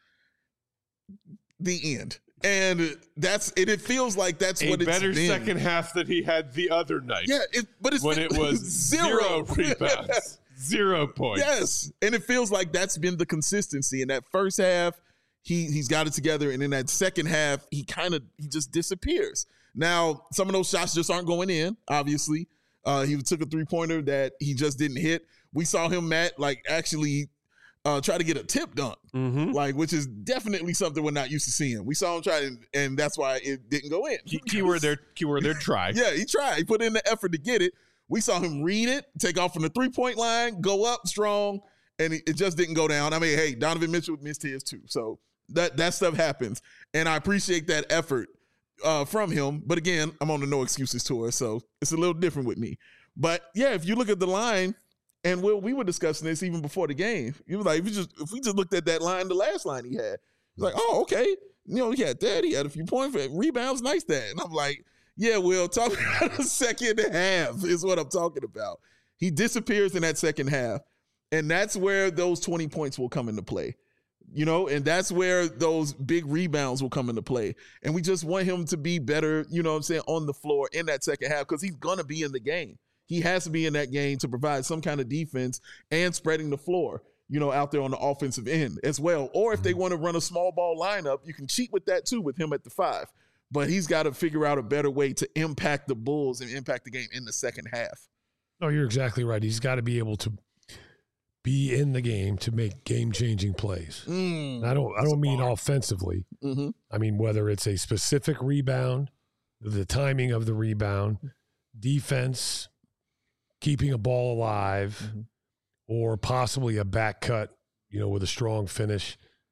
The end. And that's it. It feels like that's A what it's better been. second half than he had the other night. Yeah, it, but it's when been- it was zero rebounds, zero points. Yes, and it feels like that's been the consistency. In that first half, he he's got it together, and in that second half, he kind of he just disappears. Now, some of those shots just aren't going in. Obviously, uh, he took a three pointer that he just didn't hit. We saw him, Matt, like actually uh, try to get a tip dunk, Mm-hmm. like which is definitely something we're not used to seeing. We saw him try, and, and that's why it didn't go in. Key, keyword there. Keyword there. Try. Yeah, he tried. He put in the effort to get it. We saw him read it, take off from the three-point line, go up strong, and it, it just didn't go down. I mean, hey, Donovan Mitchell missed his too. So that that stuff happens. And I appreciate that effort uh, from him. But again, I'm on the no excuses tour, so it's a little different with me. But yeah, if you look at the line, and we we were discussing this even before the game. He was like, if, you just, if we just looked at that line, the last line he had, he's like, oh, okay. You know, he had that. He had a few points, rebounds, nice that. And I'm like, yeah, Will, talk about the second half is what I'm talking about. He disappears in that second half, and that's where those twenty points will come into play. You know, and that's where those big rebounds will come into play. And we just want him to be better, you know what I'm saying, on the floor in that second half because he's going to be in the game. He has to be in that game to provide some kind of defense and spreading the floor, you know, out there on the offensive end as well. Or if they want to run a small ball lineup, you can cheat with that too with him at the five. But he's got to figure out a better way to impact the Bulls and impact the game in the second half. No, you're exactly right. He's got to be able to be in the game to make game-changing plays. Mm. And I don't. I don't mean offensively. Mm-hmm. I mean whether it's a specific rebound, the timing of the rebound, defense, keeping a ball alive, Mm-hmm. or possibly a back cut, you know, with a strong finish.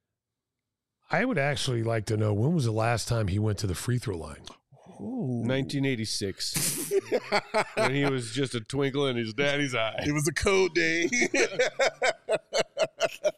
I would actually like to know, when was the last time he went to the free throw line? nineteen eighty-six. When he was just a twinkle in his daddy's eye. It was a cold day.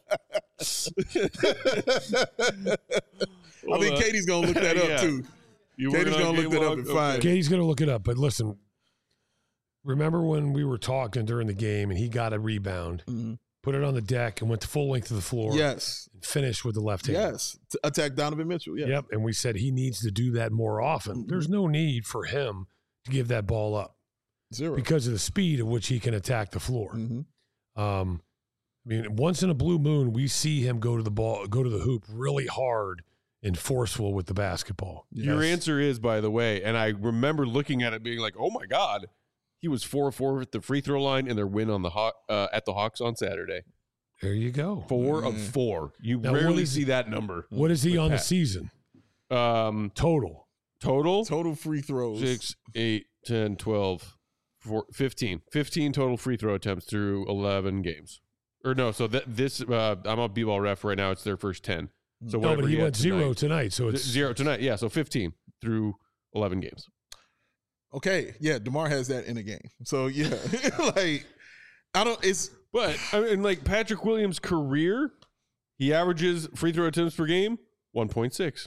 I think Katie's going to look that up Yeah. too. You Katie's working on gonna look game that up log? and Okay. find Katie's going to look it up. But listen, remember when we were talking during the game and he got a rebound, Mhm. put it on the deck and went the full length of the floor Yes. and finished with the left hand? Yes. To attack Donovan Mitchell. Yeah. Yep. And we said he needs to do that more often. Mhm. There's no need for him to give that ball up Zero. because of the speed at which he can attack the floor. Mhm. Um, I mean, once in a blue moon, we see him go to the ball, go to the hoop really hard and forceful with the basketball. Your Yes. answer is, by the way, and I remember looking at it being like, oh my God, he was four of four at the free throw line in their win on the Haw- uh, at the Hawks on Saturday. There you go. Four of Mhm. four. You Now, what rarely is- see that number. What is he with on the Pat. season Um, total? total? Total free throws. six, eight, ten, twelve, four, fifteen. fifteen total free throw attempts through eleven games. Or no, so that this, uh, I'm on B-ball ref right now. It's their first ten. So No, whatever but he had went zero tonight. tonight, so it's Z- Zero tonight. Yeah, so fifteen through eleven games. Okay. Yeah. DeMar has that in a game. So yeah. like, I don't, it's, But, I mean, like Patrick Williams' career, he averages free throw attempts per game, one point six.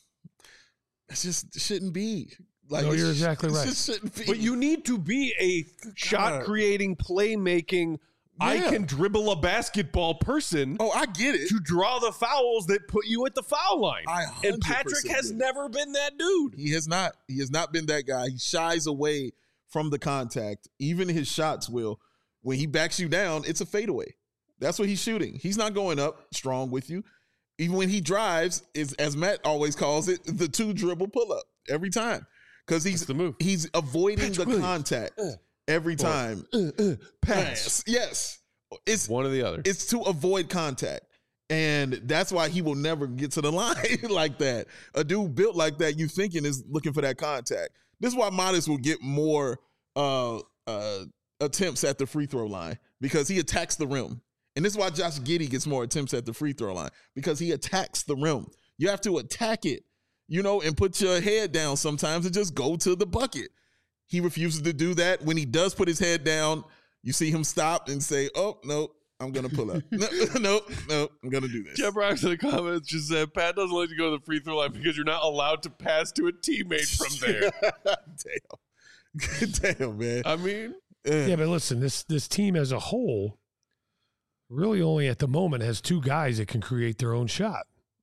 it just shouldn't be. Like, No, it you're sh- exactly it right. just shouldn't be. But you need to be a shot creating, playmaking, I Yeah. can dribble a basketball person Oh, I get it. to draw the fouls that put you at the foul line. I And Patrick has get it. never been that dude. He has not. He has not been that guy. He shies away from the contact. Even his shots will. When he backs you down, it's a fadeaway. That's what he's shooting. He's not going up strong with you. Even when he drives, is as Matt always calls it, the two dribble pull up every time. Because he's That's the move. he's avoiding Patrick the Williams. contact Uh, every time. Uh, uh, Pass. Yes. It's One or the other. it's to avoid contact. And that's why he will never get to the line like that. A dude built like that, you thinking is looking for that contact. This is why Modest will get more uh, uh, attempts at the free throw line because he attacks the rim. And this is why Josh Giddey gets more attempts at the free throw line because he attacks the rim. You have to attack it, you know, and put your head down sometimes and just go to the bucket. He refuses to do that. When he does put his head down, you see him stop and say, oh, no, I'm going to pull up. no, no, no, I'm going to do this. Jeff Rocks in the comments just said, Pat doesn't let you go to the free throw line because you're not allowed to pass to a teammate from there. Damn. Damn, man. I mean, Yeah. yeah. But listen, this this team as a whole really only at the moment has two guys that can create their own shot.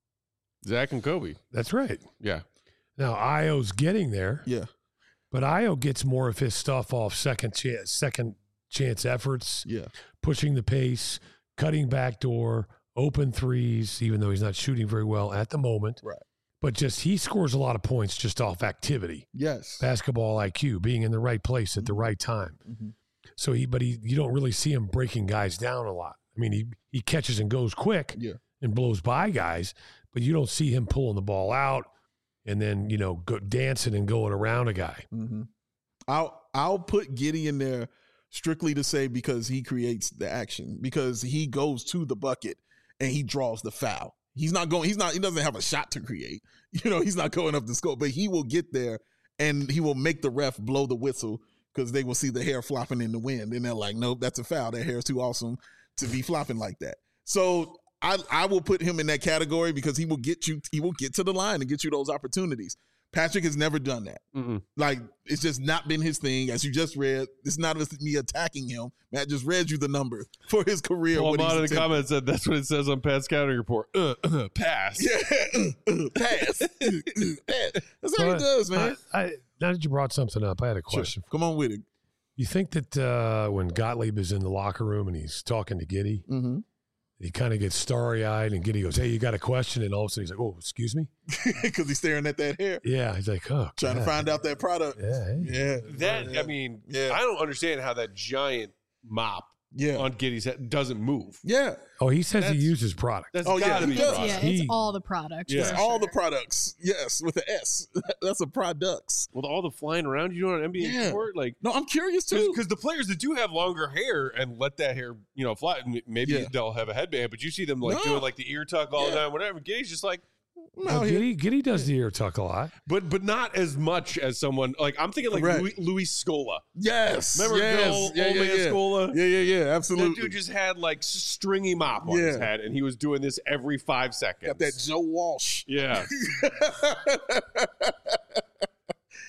Zach and Kobe. That's right. Yeah. Now Io's getting there, Yeah. but Io gets more of his stuff off second chance, second chance efforts, Yeah. pushing the pace, cutting back door, open threes, even though he's not shooting very well at the moment. Right. But just he scores a lot of points just off activity, Yes. basketball I Q, being in the right place at the right time. Mhm. So he, but he, you don't really see him breaking guys down a lot. I mean, he he catches and goes quick Yeah. and blows by guys, but you don't see him pulling the ball out and then you know go dancing and going around a guy. Mm-hmm. I'll I'll put Giddey in there strictly to say because he creates the action because he goes to the bucket and he draws the foul. He's not going. He's not. He doesn't have a shot to create. You know, he's not going up the scope, but he will get there and he will make the ref blow the whistle because they will see the hair flopping in the wind and they're like, nope, that's a foul. That hair is too awesome to be flopping like that. So I I will put him in that category because he will get you. He will get to the line and get you those opportunities. Patrick has never done that. Mm-mm. Like, it's just not been his thing. As you just read, it's not me attacking him. Matt just read you the number for his career. Paul what he's Mott in the attempted. comments said that's what it says on Pat's scouting report. Uh, uh, pass. Yeah. Pass. Pass. That's how he But does, man. I, I, now that you brought something up, I had a question. Sure. Come on with it. You think that uh, when Gottlieb is in the locker room and he's talking to Giddey, Mm-hmm. he kind of gets starry-eyed and Giddey goes, hey, you got a question? And all of a sudden he's like, oh, excuse me? Because he's staring at that hair, Yeah. He's like, oh, trying to God. find out that product. Yeah. Hey. Yeah. That, yeah. I mean, Yeah. I don't understand how that giant mop Yeah. on Giddey's head doesn't move. Yeah. Oh, he says he That's- uses product. That's Oh, yeah, gotta he be does. right. Yeah, He- it's all the products. Yeah. It's for all the sure. products. Yes, with the S. That's a products. With all the flying around you do on an N B A Yeah. court, like No, I'm curious too. because the players that do have longer hair and let that hair, you know, fly, m- maybe Yeah. they'll have a headband, but you see them like No. doing like the ear tuck all the Yeah. time, whatever. Giddey's just like, I'm Oh, out here. Giddey, Giddey does the ear tuck a lot. but but not as much as someone like I'm thinking like Correct. Louis, Louis Scola. Yes. Remember yes. Bill, yeah, old yeah, man yeah. Scola? Yeah, yeah, yeah. That Absolutely. dude just had like s- stringy mop on his Yeah. head, and he was doing this every five seconds. Got that Joe Walsh. Yeah.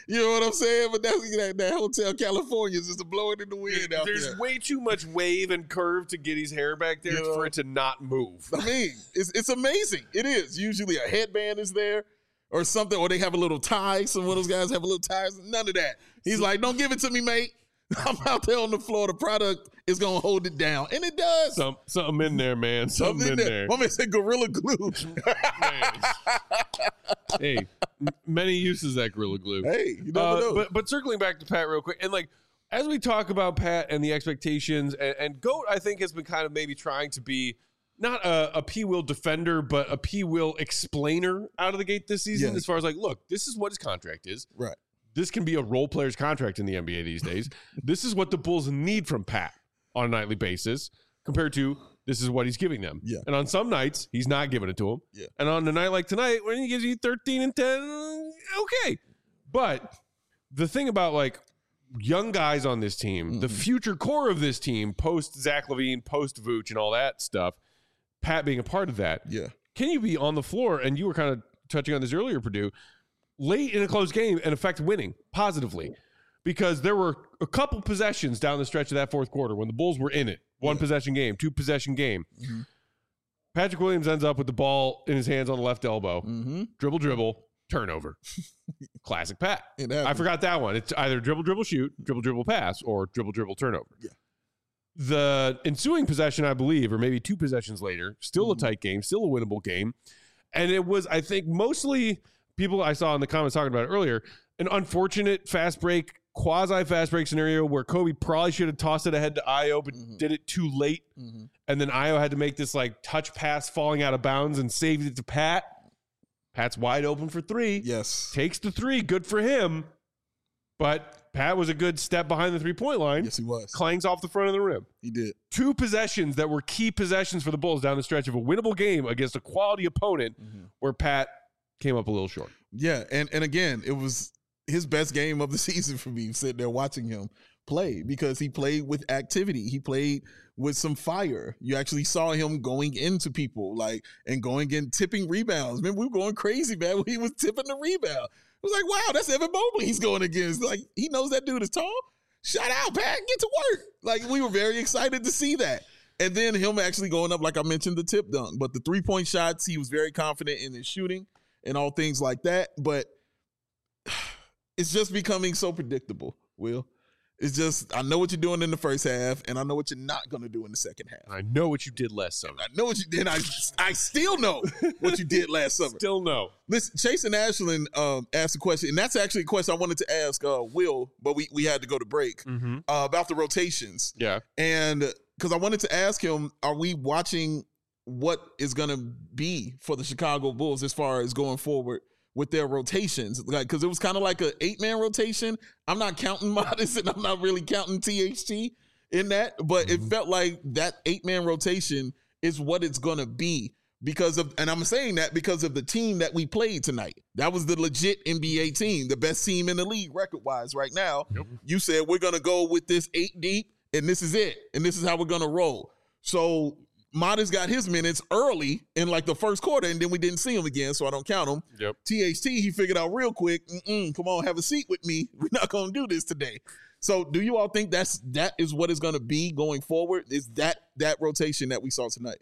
You know what I'm saying? But that's that, that Hotel California is just blowing in the wind out There's there. way too much wave and curve to Giddey's hair back there You know? for it to not move. I mean, it's it's amazing. It is. Usually a headband is there or something, or they have a little tie. Some of those guys have a little ties. None of that. He's like, don't give it to me, mate. I'm out there on the floor. The product is going to hold it down. And it does. Some, something in there, man. Something, Something in there. there. My man said Gorilla Glue. Man. Hey, m- many uses that Gorilla Glue. Hey, you never Uh, know. but but circling back to Pat real quick, and like as we talk about Pat and the expectations, and, and Goat, I think has been kind of maybe trying to be not a, a P Will defender, but a P Will explainer out of the gate this season. Yeah. As far as like, look, this is what his contract is. Right. This can be a role player's contract in the N B A these days. This is what the Bulls need from Pat on a nightly basis, compared to this is what he's giving them. Yeah. And on some nights, he's not giving it to them. Yeah. And on a night like tonight, when he gives you thirteen and ten, okay. But the thing about like young guys on this team, Mm-hmm. the future core of this team, post Zach LaVine, post Vooch, and all that stuff, Pat being a part of that, Yeah. can you be on the floor? And you were kind of touching on this earlier, Purdue, late in a close game and affect winning positively, because there were a couple possessions down the stretch of that fourth quarter when the Bulls were in it. One Yeah. possession game, two possession game. Mm-hmm. Patrick Williams ends up with the ball in his hands on the left elbow. Mm-hmm. Dribble, dribble, turnover. Classic Pat. It I happened. forgot that one. It's either dribble, dribble, shoot, dribble, dribble, pass, or dribble, dribble, turnover. Yeah. The ensuing possession, I believe, or maybe two possessions later, still a tight game, still a winnable game. And it was, I think, mostly people I saw in the comments talking about it earlier, an unfortunate fast break, quasi fast break scenario where Kobe probably should have tossed it ahead to Io, but Mhm. did it too late. Mm-hmm. And then Io had to make this like touch pass falling out of bounds and saved it to Pat. Pat's wide open for three. Yes. Takes the three. Good for him. But Pat was a good step behind the three-point line. Yes, he was. Clangs off the front of the rim. He did. Two possessions that were key possessions for the Bulls down the stretch of a winnable game against a quality opponent Mm-hmm. where Pat came up a little short. Yeah, and and again, it was his best game of the season for me, sitting there watching him play, because he played with activity. He played with some fire. You actually saw him going into people, like, and going in, tipping rebounds. Man, we were going crazy, man, when he was tipping the rebound. It was like, wow, that's Evan Mobley he's going against. Like, he knows that dude is tall. Shout out, Pat, get to work. Like, we were very excited to see that. And then him actually going up, like I mentioned, the tip dunk. But the three-point shots, he was very confident in his shooting and all things like that. But it's just becoming so predictable, Will. It's just, I know what you're doing in the first half, and I know what you're not going to do in the second half. I know what you did last summer. I know what you did. I, I still know what you did last summer. Still no. Listen, Chase and Ashland um, asked a question, and that's actually a question I wanted to ask uh, Will, but we, we had to go to break, Mm-hmm. uh, about the rotations. Yeah. And because I wanted to ask him, are we watching what is going to be for the Chicago Bulls as far as going forward with their rotations? Like, because it was kind of like an eight-man rotation. I'm not counting Modest, and I'm not really counting T H T in that, but Mm-hmm. it felt like that eight-man rotation is what it's going to be because of, and I'm saying that because of the team that we played tonight. That was the legit N B A team, the best team in the league record-wise right now. Yep. You said we're going to go with this eight deep, and this is it, and this is how we're going to roll. So Modest got his minutes early in like the first quarter, and then we didn't see him again, so I don't count him. Yep. T H T, he figured out real quick, Mm-mm, come on, have a seat with me. We're not going to do this today. So do you all think that's that is what it's going to be going forward? Is that that rotation that we saw tonight?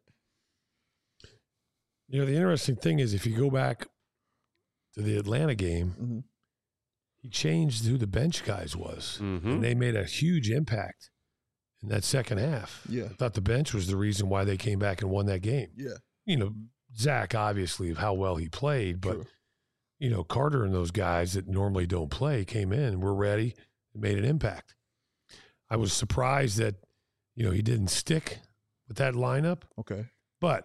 You know, the interesting thing is if you go back to the Atlanta game, Mm-hmm. he changed who the bench guys was, Mm-hmm. and they made a huge impact in that second half. Yeah. I thought the bench was the reason why they came back and won that game. Yeah. You know, Zach, obviously, of how well he played, but, True. you know, Carter and those guys that normally don't play came in, were ready, and made an impact. I was surprised that, you know, he didn't stick with that lineup, Okay. but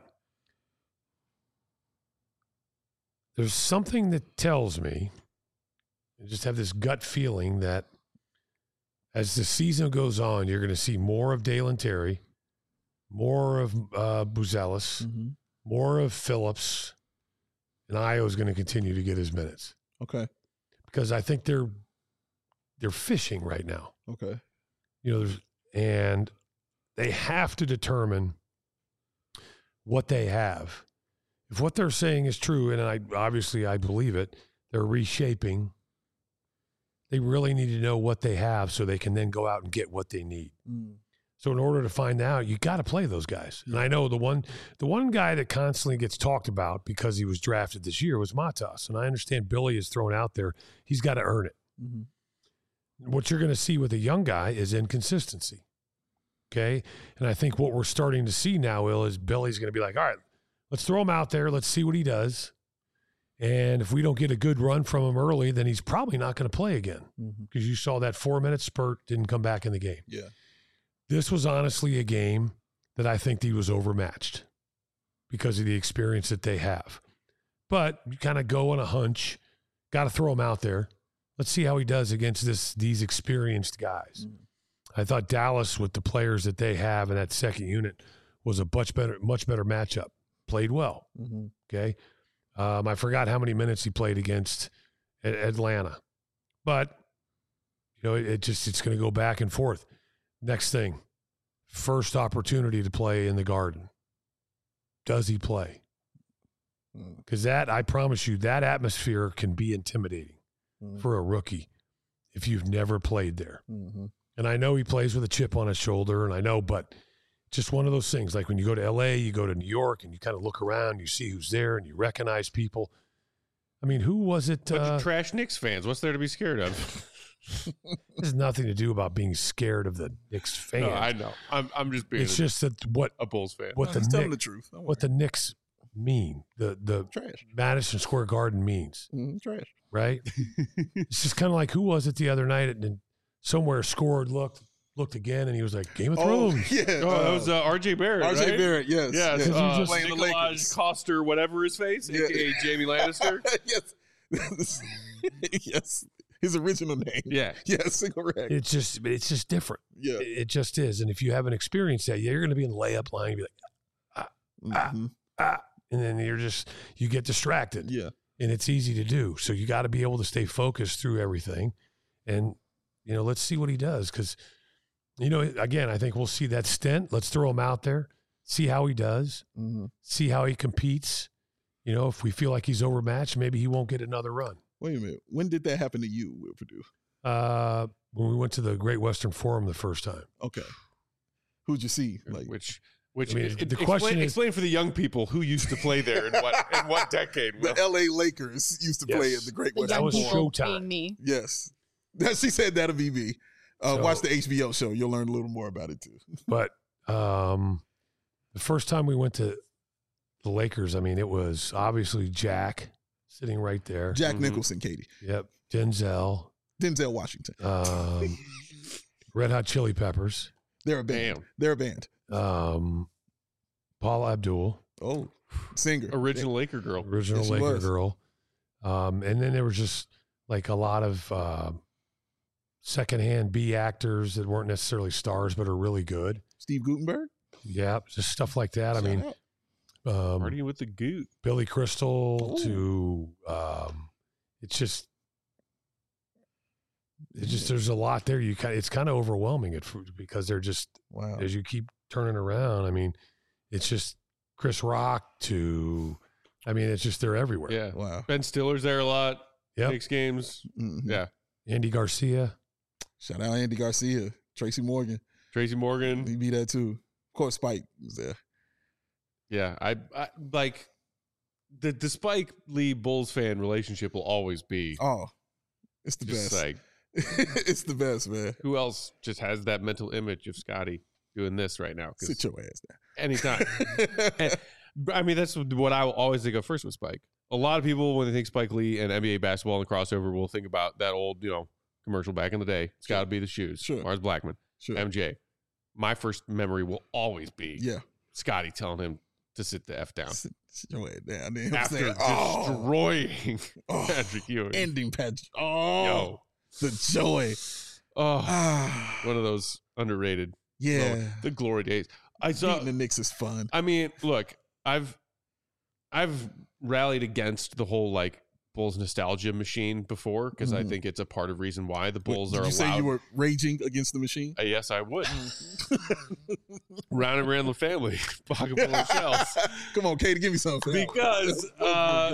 there's something that tells me, I just have this gut feeling that as the season goes on, you're going to see more of Dalen Terry, more of uh, Buzelis, Mm-hmm. more of Phillips, and Io is going to continue to get his minutes Okay. because I think they're they're fishing right now. Okay. You know, there's, and they have to determine what they have. If what they're saying is true, and I obviously I believe it, they're reshaping they really need to know what they have so they can then go out and get what they need. Mm. So in order to find out, you got to play those guys. And I know the one the one guy that constantly gets talked about because he was drafted this year was Matas. And I understand Billy is thrown out there. He's got to earn it. Mm-hmm. What you're going to see with a young guy is inconsistency. Okay? And I think what we're starting to see now, Will, is Billy's going to be like, all right, let's throw him out there. Let's see what he does. And if we don't get a good run from him early, then he's probably not going to play again because Mm-hmm. you saw that four-minute spurt, didn't come back in the game. Yeah. This was honestly a game that I think he was overmatched because of the experience that they have. But you kind of go on a hunch, got to throw him out there. Let's see how he does against this these experienced guys. Mm. I thought Dallas, with the players that they have in that second unit, was a much better much better matchup. Played well. Mm-hmm. Okay. Um, I forgot how many minutes he played against a- Atlanta. But, you know, it, it just it's going to go back and forth. Next thing, first opportunity to play in the Garden. Does he play? Because that, I promise you, that atmosphere can be intimidating Mm. for a rookie if you've never played there. Mm-hmm. And I know he plays with a chip on his shoulder, and I know, but just one of those things. Like when you go to L A, you go to New York, and you kind of look around, you see who's there, and you recognize people. I mean, who was it? Bunch Uh, of trash Knicks fans. What's there to be scared of? It has nothing to do about being scared of the Knicks fans. No, I know. I'm, I'm just being it's a, just that what a Bulls fan. what the He's telling Knick- the truth. Don't what the Knicks mean. The the Trash. Madison Square Garden means, Mm, trash. right? It's just kind of like, who was it the other night and somewhere scored, looked, looked again, and he was like, Game of Oh, Thrones. yeah. Oh, that was uh, R J Barrett, R J right? Barrett, yes. Yeah, yes. it's, uh, Playing the Nikolaj Lakers. Coster, whatever his face, Yeah. a k a. Jamie Lannister. yes. yes. His original name. Yeah. Yes, correct. It's just, it's just different. yeah. It, it just is. And if you haven't experienced that, you're going to be in the layup line, and be like, Mhm. ah, and then you're just, you get distracted. Yeah. And it's easy to do. So you got to be able to stay focused through everything. And, you know, let's see what he does. Because, you know, again, I think we'll see that stint. Let's throw him out there, see how he does, Mm-hmm. see how he competes. You know, if we feel like he's overmatched, maybe he won't get another run. Wait a minute. When did that happen to you, Will Purdue? Uh, when we went to the Great Western Forum the first time. Okay. Who'd you see? Like, Which, which I mean, it- the explain, question is- explain for the young people who used to play there in what in what decade. Will? the L A Lakers used to play Yes. at the Great The Western That was young Forum. people Showtime. being me. Yes. She said that'll be me. Uh, So- watch the H B O show. You'll learn a little more about it too. But um, the first time we went to the Lakers, I mean, it was obviously Jack sitting right there. Jack Mhm. Nicholson, Katie. Yep. Denzel, Denzel Washington. um, Red Hot Chili Peppers, They're a band. Damn. They're a band. um, Paula Abdul, Oh, singer. Original Laker girl. original Yes, she Laker was. girl. Um, and then there was just like a lot of uh, secondhand B actors that weren't necessarily stars, but are really good. Steve Gutenberg. Yeah, just stuff like that. I Shout mean, out. um, Partying with the Goot. Billy Crystal Ooh. to um, it's just it's just there's a lot there. You kind it's kind of overwhelming at fir- because they're just Wow. as you keep turning around. I mean, it's just Chris Rock to I mean, it's just they're everywhere. Yeah. Wow. Ben Stiller's there a lot. Yep. Knicks games. Mhm. Yeah. Andy Garcia. Shout out Andy Garcia, Tracy Morgan. Tracy Morgan. He be there too. Of course, Spike was there. Yeah. I, I like the, the Spike Lee Bulls fan relationship will always be Oh, it's the just best. like, it's the best, man. who else just has that mental image of Scotty doing this right now? 'Cause Sit your ass anytime. down. And- I mean, that's what I will always think of first with Spike. A lot of people, when they think Spike Lee and N B A basketball and crossover, will think about that old, you know, commercial back in the day. It's got to be the shoes. Sure. Mars Blackman, Sure. M J. My first memory will always be Yeah. Scotty telling him to sit the F down Sit, sit your ass down. Then after saying, oh, destroying oh, Patrick Ewing. ending Patrick. Oh, Yo. the joy. Oh, Ah, one of those underrated. yeah. moments. The glory days. I saw. Beating the Knicks is fun. I mean, look, I've I've rallied against the whole like Bulls nostalgia machine before because I Mhm. think it's a part of reason why the Bulls Did are you say allowed. you were raging against the machine? Uh, yes, I would. Round and round the family, pocket full of shells. Come on, Katie, give me something. Because uh,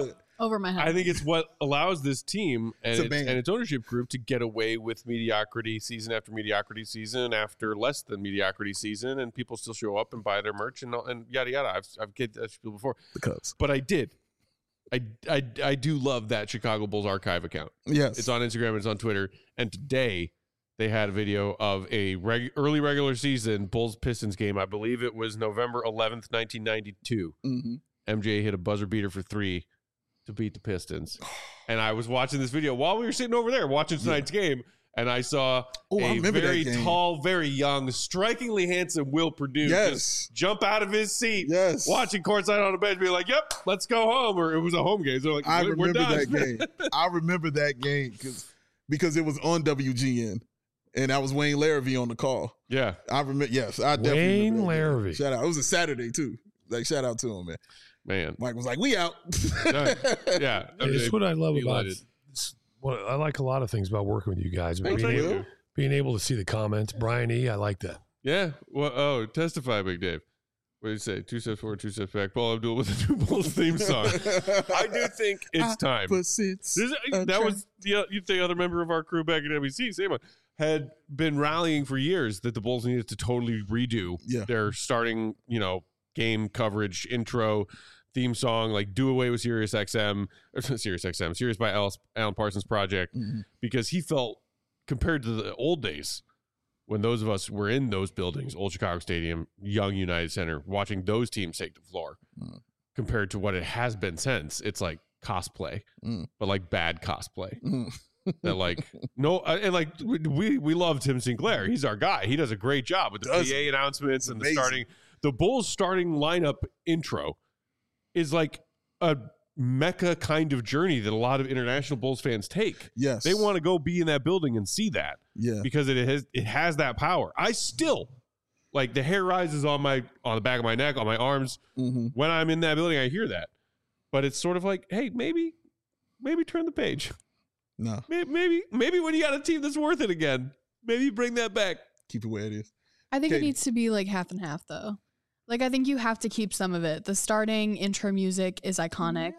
Over my head. I think it's what allows this team and It's a its, band. and its ownership group to get away with mediocrity season after mediocrity season after less than mediocrity season, and people still show up and buy their merch and and yada yada. I've I've get that people before, The Cubs. but I did. I, I, I do love that Chicago Bulls archive account. Yes. It's on Instagram. It's on Twitter. And today they had a video of a reg- early regular season Bulls Pistons game. I believe it was November eleventh, nineteen ninety-two. Mm-hmm. M J hit a buzzer beater for three to beat the Pistons. And I was watching this video while we were sitting over there watching tonight's game. And I saw Oh, I a remember that very game. tall, very young, strikingly handsome Will Perdue Yes. just jump out of his seat, Yes. watching courtside on the bench, be like, "Yep, let's go home." Or it was a home game, so like, I "We're remember done." that game. I remember that game because because it was on W G N, and I was Wayne Larrivee on the call. Yeah, I remember. Yes, I definitely Wayne remember that game. Larrivee. Shout out. It was a Saturday too. Like shout out to him, man. man. Mike was like, "We out." Done. Yeah, Hey, it's what I love be about lighted. it's what I like a lot of things about working with you guys. Thank being, you. able, being able to see the comments. Brian E, I like that. Yeah. Well, oh, testify, Big Dave. What did you say? Two steps forward, two steps back. Paul Abdul with the New Bulls theme song. I do think it's time. Opposites This is- that attract. was the you the other member of our crew back at W C, same one, had been rallying for years that the Bulls needed to totally redo Yeah. their starting, you know, game coverage intro theme song, like do away with Sirius X M, or Sirius X M, Sirius by Al- Alan Parsons Project, Mhm. because he felt compared to the old days when those of us were in those buildings, Old Chicago Stadium, Young United Center, watching those teams take the floor, Mm. compared to what it has been since, it's like cosplay, Mm. but like bad cosplay. Mm. That like no uh, and like we we love Tim Sinclair. He's our guy. He does a great job with the Does P A announcements and the amazing. starting. The Bulls starting lineup intro is like a mecca kind of journey that a lot of international Bulls fans take. Yes, They want to go be in that building and see that Yeah, because it has it has that power. I still like the hair rises on my on the back of my neck, on my arms mm-hmm. when I'm in that building. I hear that, but it's sort of like, hey, maybe maybe turn the page. No, Maybe, maybe, maybe when you got a team that's worth it again, maybe bring that back. keep it where it is. I think it Katie. needs to be like half and half though. Like I think you have to keep some of it. The starting intro music is iconic.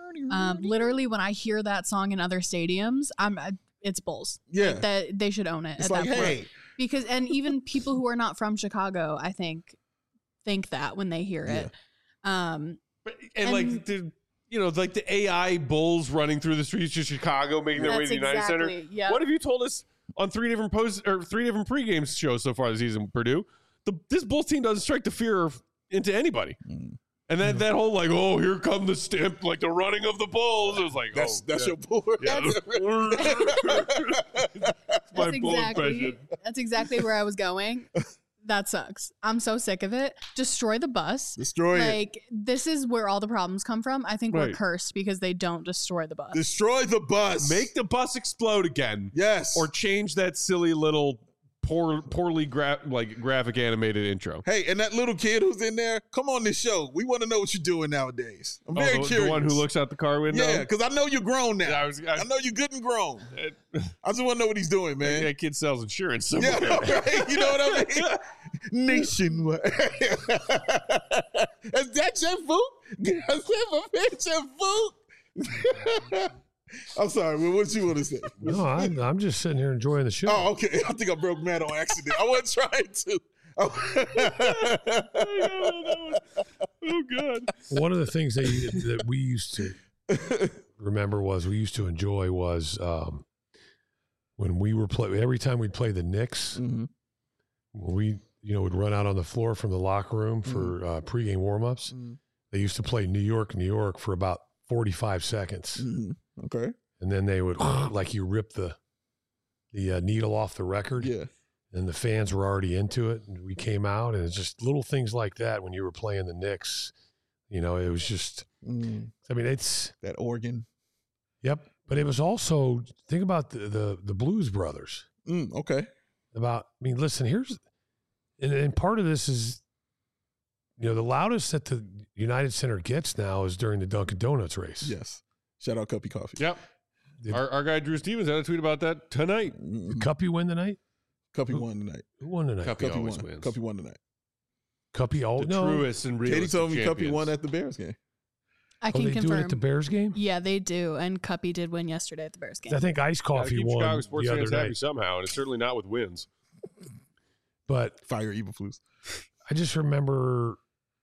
Um, literally, when I hear that song in other stadiums, I'm I- it's Bulls. Yeah, Like, that they should own it it's at like, that point. hey, Because and even people who are not from Chicago, I think, think that when they hear it. Um, But, and, And- like the, you know, like the A I Bulls running through the streets of Chicago, making their way to that's the United Center. exactly yeah. What have you told us on three different posts or three different pregame shows so far this season, Purdue? The this Bulls team doesn't strike the fear of, into anybody. Mm. And then that whole like, oh, here come the stamp, like the running of the Bulls. It was like, that's oh, that's yeah. your board. Yeah. That's my That's Bull exactly impression. that's exactly where I was going. That sucks. I'm so sick of it. Destroy the bus. Destroy it. Like this is where all the problems come from. I think Right. we're cursed because they don't destroy the bus. Destroy the bus. Make the bus explode again. yes. Or change that silly little poor, poorly gra- like graphic animated intro. hey, and that little kid who's in there, come on this show. We want to know what you're doing nowadays. I'm Oh, very the, curious. the one who looks out the car window. Yeah, because I know you're grown now. Yeah, I was. I, I know you're good and grown. I, I just want to know what he's doing, man. that kid sells insurance somewhere. Yeah, right. You know what I mean? Nationwide. Is that your food? Is that your food? I'm sorry, man. What you want to say? No, I'm, I'm just sitting here enjoying the show. Oh, okay. I think I broke Matt on accident. I wasn't trying to. Oh god. One of the things that, you, that we used to remember was we used to enjoy was um, when we were play every time we'd play the Knicks, Mm-hmm. when we you know would run out on the floor from the locker room for uh, pregame warmups. Mm-hmm. They used to play New York, New York for about forty-five seconds, Mm-hmm. Okay. and then they would like you rip the the uh, needle off the record. Yeah. And the fans were already into it. And we came out, and it's just little things like that when you were playing the Knicks. You know, it was just, Mm, I mean, it's, that organ. yep. But it was also, think about the the, the Blues Brothers. Mm, okay. About, I mean, listen, here's, and, and part of this is, you know, the loudest that the United Center gets now is during the Dunkin' Donuts race. Yes. Shout out Cuppy Coffee. Yep. Did, Our, our guy Drew Stevens had a tweet about that tonight. Mm, did Cuppy win tonight? Cuppy Who- won tonight. Who won tonight? Cuppy Cuppy always won. wins. Cuppy won tonight. Cuppy, oh, The no. truest and realest Katie told of me champions. Cuppy won at the Bears game. I Oh, can they do it confirm. at the Bears game? Yeah, they do. And Cuppy did win yesterday at the Bears game. I think Ice Gotta Coffee keep won Chicago sports the other fans happy night. somehow, and it's certainly not with wins. But Fire Evil Flus. I just remember,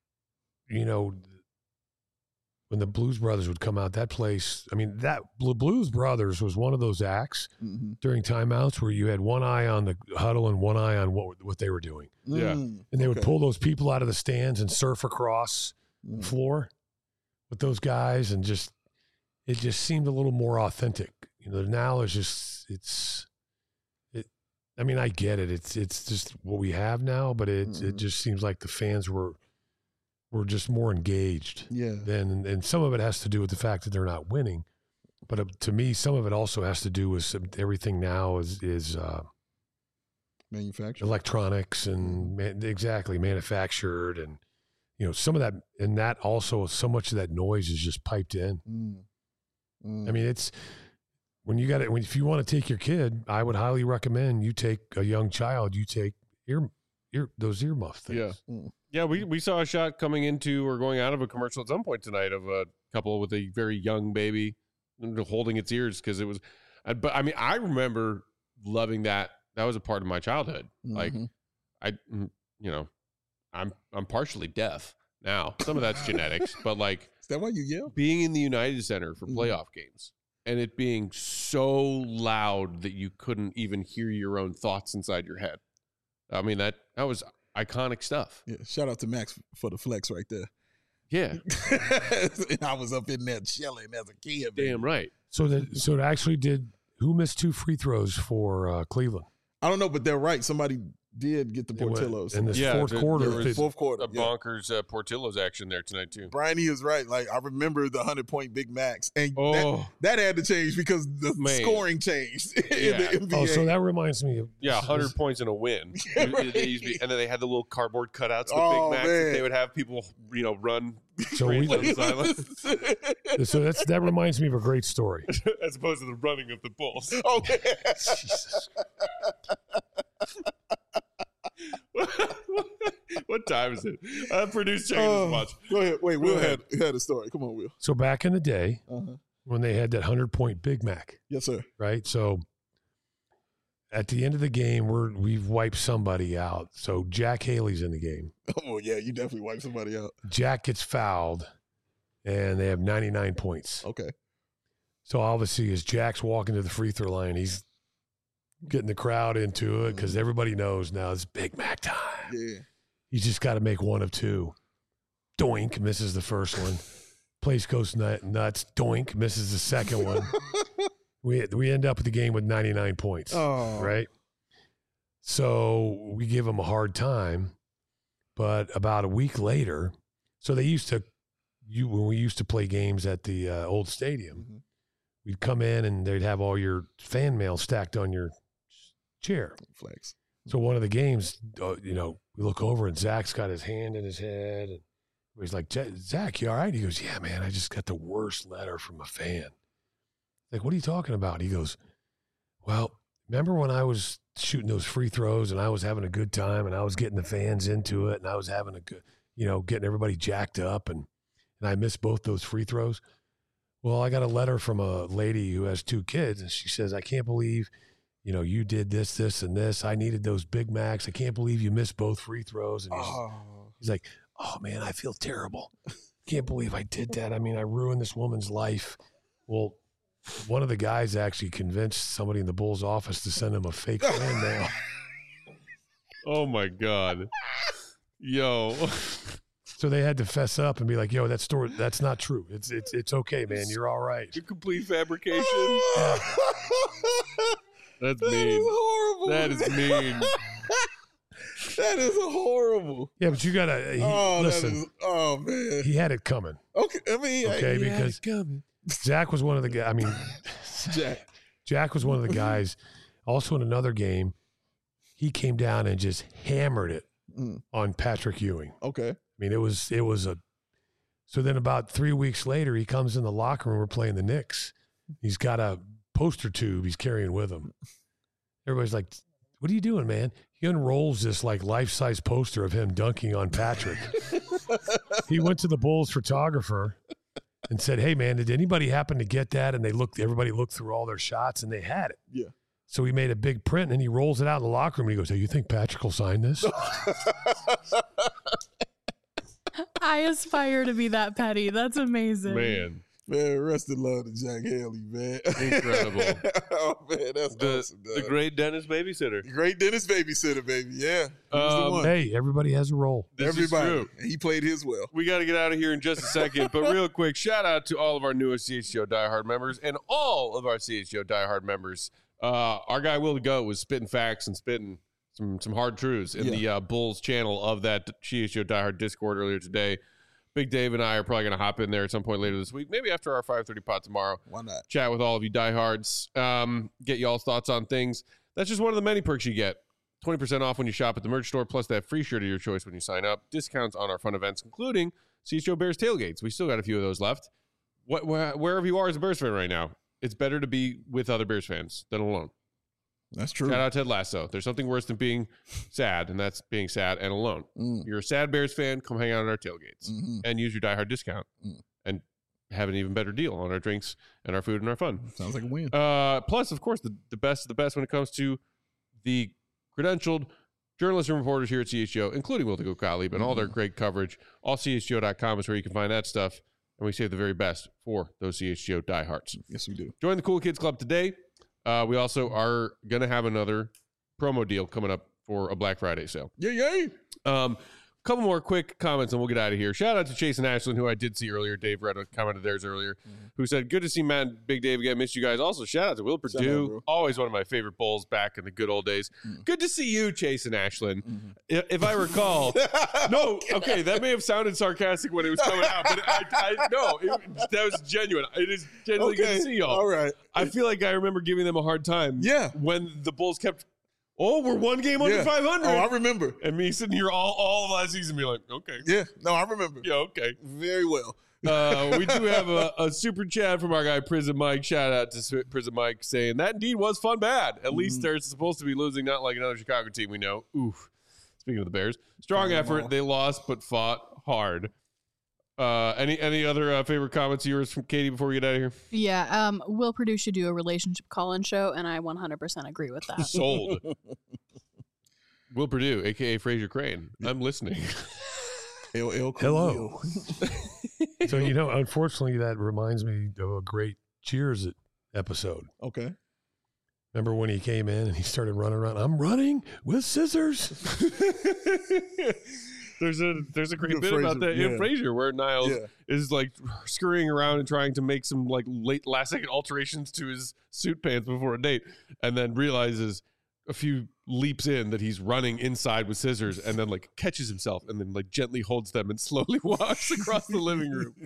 you know, when the Blues Brothers would come out, that place, I mean, that Bl- Blues Brothers was one of those acts Mm-hmm. during timeouts where you had one eye on the huddle and one eye on what what they were doing. Yeah. Mm, And they would okay. pull those people out of the stands and surf across Mm. the floor with those guys, and just it just seemed a little more authentic. You know, now it's just it's it. I mean, I get it. It's it's just what we have now, but it Mhm. it just seems like the fans were were just more engaged. Yeah. Then, and some of it has to do with the fact that they're not winning, but uh, to me, some of it also has to do with some, everything now is is uh, Manufactured. electronics and man, exactly manufactured, and you know some of that, and that also so much of that noise is just piped in. Mm. Mm. I mean, it's when you got it. When if you want to take your kid, I would highly recommend you take a young child. You take ear ear those earmuff things. Yeah. Mm. Yeah, we, we saw a shot coming into or going out of a commercial at some point tonight of a couple with a very young baby holding its ears because it was. uh, But I mean, I remember loving that. That was a part of my childhood. Like, Mhm. I, mm, you know, I'm I'm partially deaf now. Some of that's genetics, but like Is that why you yell? being in the United Center for Mhm. playoff games and it being so loud that you couldn't even hear your own thoughts inside your head. I mean, that that was iconic stuff. Yeah. Shout out to Max for the flex right there. Yeah, I was up in there chilling as a kid. baby. damn right. So that so it actually did. Who missed two free throws for uh, Cleveland I don't know, but they're right. Somebody did get the It went- Portillos. in this Yeah, fourth there- quarter? there was- they- fourth quarter. A yeah. bonkers uh, Portillo's action there tonight too. Brian, he is right. Like I remember the hundred point Big Max, and Oh, that, that had to change because the Man. scoring changed in Yeah. the N B A. oh, so that reminds me of yeah, one hundred points in a win. Yeah, It- it used to be- right. and then they had the little cardboard cutouts with Oh, Big Macs man. that they would have people, you know, run So we, straight down the sideline so that's that reminds me of a great story. as opposed to the running of the Bulls. Oh, Jesus. What time is it? Uh, produce check this Oh, much. go ahead. Wait, Go Will ahead. had, had a story. Come on, Will. So back in the day Uh-huh. when they had that hundred point Big Mac, Yes, sir. right? So at the end of the game, we're we've wiped somebody out. So Jack Haley's in the game. Oh, yeah, you definitely wiped somebody out. Jack gets fouled, and they have ninety-nine points. Okay. So obviously, as Jack's walking to the free throw line, he's getting the crowd into it because everybody knows now it's Big Mac time. Yeah. He's just got to make one of two. Doink, misses the first one. Place goes nut, nuts. Doink, misses the second one. we we end up with the game with ninety-nine points, Oh. right? So we give them a hard time. But about a week later, so they used to, you when we used to play games at the uh, old stadium, Mhm. we'd come in and they'd have all your fan mail stacked on your chair. Flex. So one of the games, uh, you know, we look over and Zach's got his hand in his head, and he's like, "Zach, you all right?" He goes, "Yeah, man, I just got the worst letter from a fan." Like, what are you talking about? He goes, "Well, remember when I was shooting those free throws and I was having a good time and I was getting the fans into it and I was having a good, you know, getting everybody jacked up and and I missed both those free throws. Well, I got a letter from a lady who has two kids, and she says, I can't believe, you know, you did this, this, and this. I needed those Big Macs. I can't believe you missed both free throws." And he's, Oh. he's like, "Oh, man, I feel terrible. Can't believe I did that. I mean, I ruined this woman's life." Well, one of the guys actually convinced somebody in the Bulls office to send him a fake fan mail. Oh my god, yo. So they had to fess up and be like, "Yo, that story, that's not true. It's it's it's okay, man. You're all right." Your complete fabrication. That's That mean. is horrible. That is mean. That is horrible. Yeah, but you gotta he, Oh, listen. that is, oh man. He had it coming. Okay, I mean, Okay, he had because it coming. Zach was one of the guys. I mean, Jack. Jack was one of the guys. Also in another game, he came down and just hammered it Mm. on Patrick Ewing. Okay. I mean, it was it was a. So then, about three weeks later, he comes in the locker room. We're playing the Knicks. He's got a poster tube he's carrying with him. Everybody's like, "What are you doing, man?" He unrolls this like life size poster of him dunking on Patrick. He went to the Bulls photographer and said, "Hey, man, did anybody happen to get that?" And they looked. Everybody looked through all their shots, and they had it. Yeah. So he made a big print, and he rolls it out in the locker room. And he goes, "Hey, you think Patrick will sign this?" I aspire to be that petty. That's amazing. Man. Man, rest in love to Jack Haley, man. Incredible. Oh, man, that's The, awesome. the dog. great Dennis babysitter. Great Dennis babysitter, baby. Yeah. He was the Um, one. Hey, everybody has a role. This Everybody. is true. And he played his well. We got to get out of here in just a second, but real quick, shout out to all of our newest C H G O diehard members and all of our C H G O diehard members. Uh, our guy Will to Go was spitting facts and spitting some some hard truths in Yeah. the uh, Bulls channel of that C H G O diehard Discord earlier today. Big Dave and I are probably going to hop in there at some point later this week, maybe after our five thirty pod tomorrow. Why not? Chat with all of you diehards, um, get y'all's thoughts on things. That's just one of the many perks you get. twenty percent off when you shop at the merch store, plus that free shirt of your choice when you sign up. Discounts on our fun events, including C H G O Bears tailgates. We still got a few of those left. What, wh- wherever you are as a Bears fan right now, it's better to be with other Bears fans than alone. That's true. Shout out Ted Lasso. There's something worse than being sad, and that's being sad and alone. Mm. You're a sad Bears fan, come hang out at our tailgates Mhm. and use your diehard discount Mm. and have an even better deal on our drinks and our food and our fun. Sounds like a win. Uh, plus, of course, the, the best of the best when it comes to the credentialed journalists and reporters here at C H G O, including Will to Go Gottlieb and all their great coverage. All C H G O dot com is where you can find that stuff. And we save the very best for those C H G O diehards. Yes, we do. Join the Cool Kids Club today. Uh, we also are going to have another promo deal coming up for a Black Friday sale. Yeah, yeah. Um, couple more quick comments and we'll get out of here. Shout out to Chase and Ashlyn, who I did see earlier. Dave read a comment of theirs earlier, Mm-hmm. who said, "Good to see Matt and Big Dave again. Missed you guys." Also, shout out to Will Shout out, Purdue. bro. Always one of my favorite Bulls back in the good old days. Mm. Good to see you, Chase and Ashlyn. Mm-hmm. If, if I recall, no, okay, that may have sounded sarcastic when it was coming out, but I, I no, it, that was genuine. It is genuinely good to see y'all. All right. I feel like I remember giving them a hard time. Yeah. When the Bulls kept, oh, we're one game under Yeah. five hundred. Oh, I remember. And me sitting here all, all of last season being like, okay. Yeah. No, I remember. Yeah, okay. Very well. Uh, we do have a, a super chat from our guy Prison Mike. Shout out to S- Prison Mike saying that indeed was fun bad. At least they're supposed to be losing, not like another Chicago team we know. Oof. Speaking of the Bears, strong Fire 'em effort. all. They lost but fought hard. Uh, any any other uh, favorite comments of yours from Katie before we get out of here? Yeah, um, Will Purdue should do a relationship call-in show, and I one hundred percent agree with that. Sold. Will Purdue, aka Fraser Crane. I'm listening. L L Hello. So, you know, unfortunately, that reminds me of a great Cheers episode. Okay. Remember when he came in and he started running around? I'm running with scissors. There's a there's a great Good bit about Frasier, that in yeah. Frasier where Niles Yeah. is like scurrying around and trying to make some like late last second alterations to his suit pants before a date, and then realizes a few leaps in that he's running inside with scissors, and then like catches himself and then like gently holds them and slowly walks across the living room.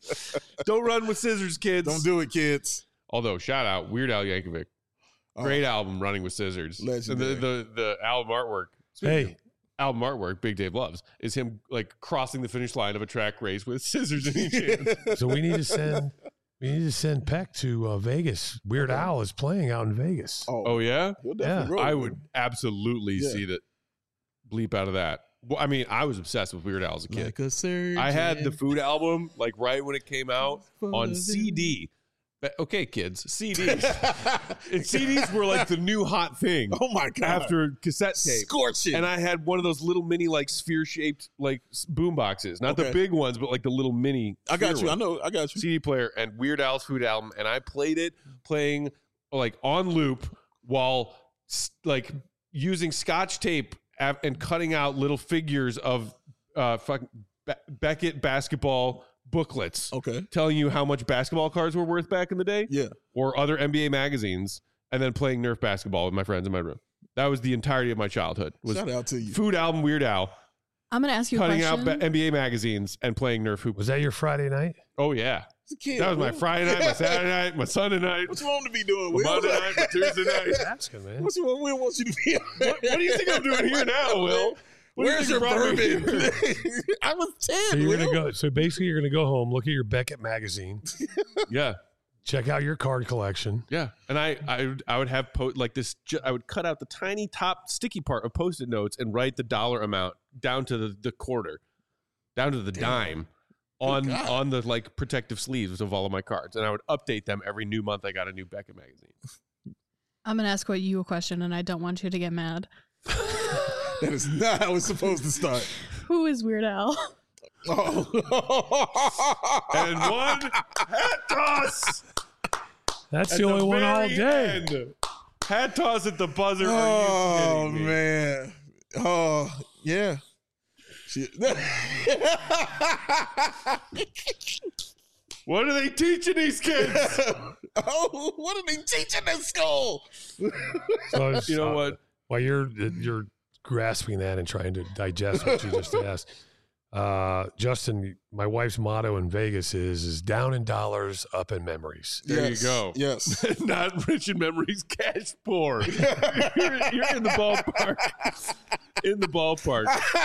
Don't run with scissors, kids. Don't do it, kids. Although shout out Weird Al Yankovic, great album, Running with Scissors. And the, Legendary. the the album artwork. speaking of Hey, album artwork Big Dave loves is him like crossing the finish line of a track race with scissors in each hand. so we need to send we need to send Peck to uh, Vegas. Weird Al is playing out in Vegas. Oh, Oh yeah, he'll definitely roll I with would him. absolutely Yeah. see that bleep out of that. Well, I mean, I was obsessed with Weird Al as a kid. Like a surgeon. I had the Food album like right when it came out on C D. But, okay, kids, C Ds. And C Ds were like the new hot thing Oh my god! after cassette tape. Scorching. And I had one of those little mini like sphere shaped like boom boxes, not the Okay. big ones, but like the little mini. I got sphere you. I ones. know. I got you. C D player and Weird Al's Food album, and I played it playing like on loop while s- like using Scotch tape av- and cutting out little figures of uh fucking Be- Beckett basketball booklets Okay. telling you how much basketball cards were worth back in the day, Yeah. or other N B A magazines, and then playing Nerf basketball with my friends in my room. That was the entirety of my childhood. Was Shout out to you. Food album Weird Al, I'm going to ask you a cutting question. out ba- N B A magazines and playing Nerf hoop. Was that your Friday night? Oh yeah, It's a kid, that was my Will. Friday night, my Saturday night, my Sunday night, What you want him to be doing, my Will? Monday night, my Tuesday night. That's good, man. What you want Will wants you to be? What, what do you think I'm doing here now, Will? What do you Where's think your brought me bourbon? here? I was ten. So you're Will. gonna go. So basically, you're gonna go home, look at your Beckett magazine, Yeah, check out your card collection. yeah. And I, I, would- I would have po- like this. ju- I would cut out the tiny top sticky part of Post-it notes and write the dollar amount down to the, the quarter, down to the dime, on God. on the like protective sleeves of all of my cards, and I would update them every new month. I got a new Beckett magazine. I'm gonna ask you a question, and I don't want you to get mad. That is not how it's supposed to start. Who is Weird Al? Oh. And one hat toss. That's at the only one all very day. end. Hat toss at the buzzer. Are Oh you kidding me? man. Oh yeah. She- What are they teaching these kids? oh, what are they teaching in school? So I was, You know uh, what? While you're you're grasping that and trying to digest what you just asked, uh, Justin, my wife's motto in Vegas is is down in dollars, up in memories. There Yes, you go. Yes. Not rich in memories, cash poor. you're, you're in the ballpark. In the ballpark.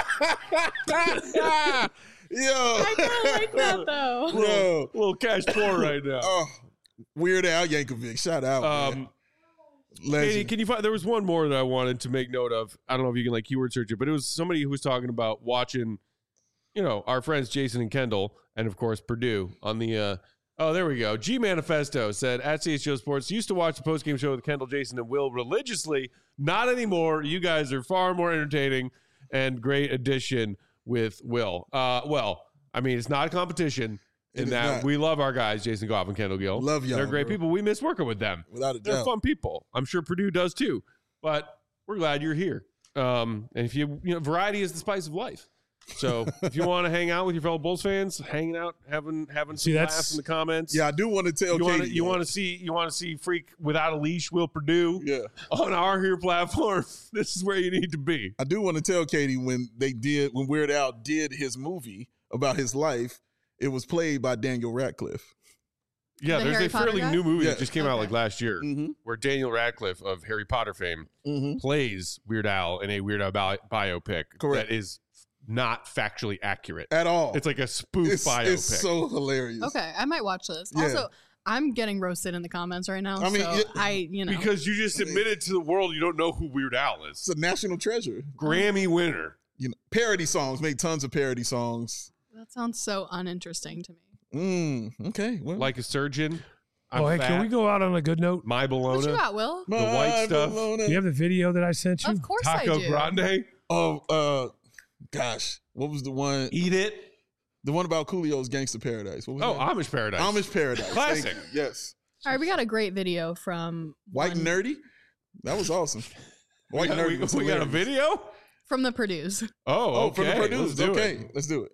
Yo. I don't like that though. Yo. A little cash poor right now. Oh, Weird Al Yankovic. Shout out. man. Um, Legend. Katie, can you find? There was one more that I wanted to make note of. I don't know if you can like keyword search it, but it was somebody who was talking about watching, you know, our friends Jason and Kendall, and of course Purdue on the. Uh, oh, there we go. G Manifesto said at C H G O Sports used to watch the postgame show with Kendall, Jason, and Will religiously. Not anymore. You guys are far more entertaining and great addition with Will. Uh, well, I mean, it's not a competition. It In is that not. we love our guys, Jason Goff and Kendall Gill. Love y'all, They're great bro. people. We miss working with them. Without a They're doubt. fun people. I'm sure Purdue does too. But we're glad you're here. Um, and if you, you know, variety is the spice of life. So if you want to hang out with your fellow Bulls fans, hanging out, having having some See, that's- laughs in the comments. Yeah, I do want to tell You want Katie. to you want to see you want to see Freak without a leash, Will Purdue Yeah. on our here platform. This is where you need to be. I do want to tell Katie when they did when Weird Al did his movie about his life, it was played by Daniel Radcliffe. Yeah, The there's Harry a Potter fairly guy? new movie Yeah. that just came out Okay. like last year, Mm-hmm. where Daniel Radcliffe of Harry Potter fame Mm-hmm. plays Weird Al in a Weird Al bi- biopic Correct. that is not factually accurate. At all. It's like a spoof it's, biopic. it's so hilarious. Okay, I might watch this. Yeah. Also, I'm getting roasted in the comments right now. I mean, so yeah, I, you know, Because you just admitted to the world you don't know who Weird Al is. It's a national treasure. Grammy winner. You know, parody songs, made tons of parody songs. that sounds so uninteresting to me. Mm, okay. Well, Like a surgeon. I'm Oh, hey, fat. can we go out on a good note? My What you Bologna. got, Will? the white stuff? Bologna. Do you have the video that I sent you? Of course Taco I do. Grande. Oh, uh, gosh, what was the one? Eat it. The one about Coolio's Gangster Paradise. What was Oh, that? Amish Paradise. Amish Paradise. Classic. Thank you. Yes. All right, we got a great video from White one- Nerdy. That was awesome. White we got, Nerdy. we, was we got a hilarious. video? from the Purdue's. Oh, Oh, okay. from the Let's producers. do Okay, it. let's do it.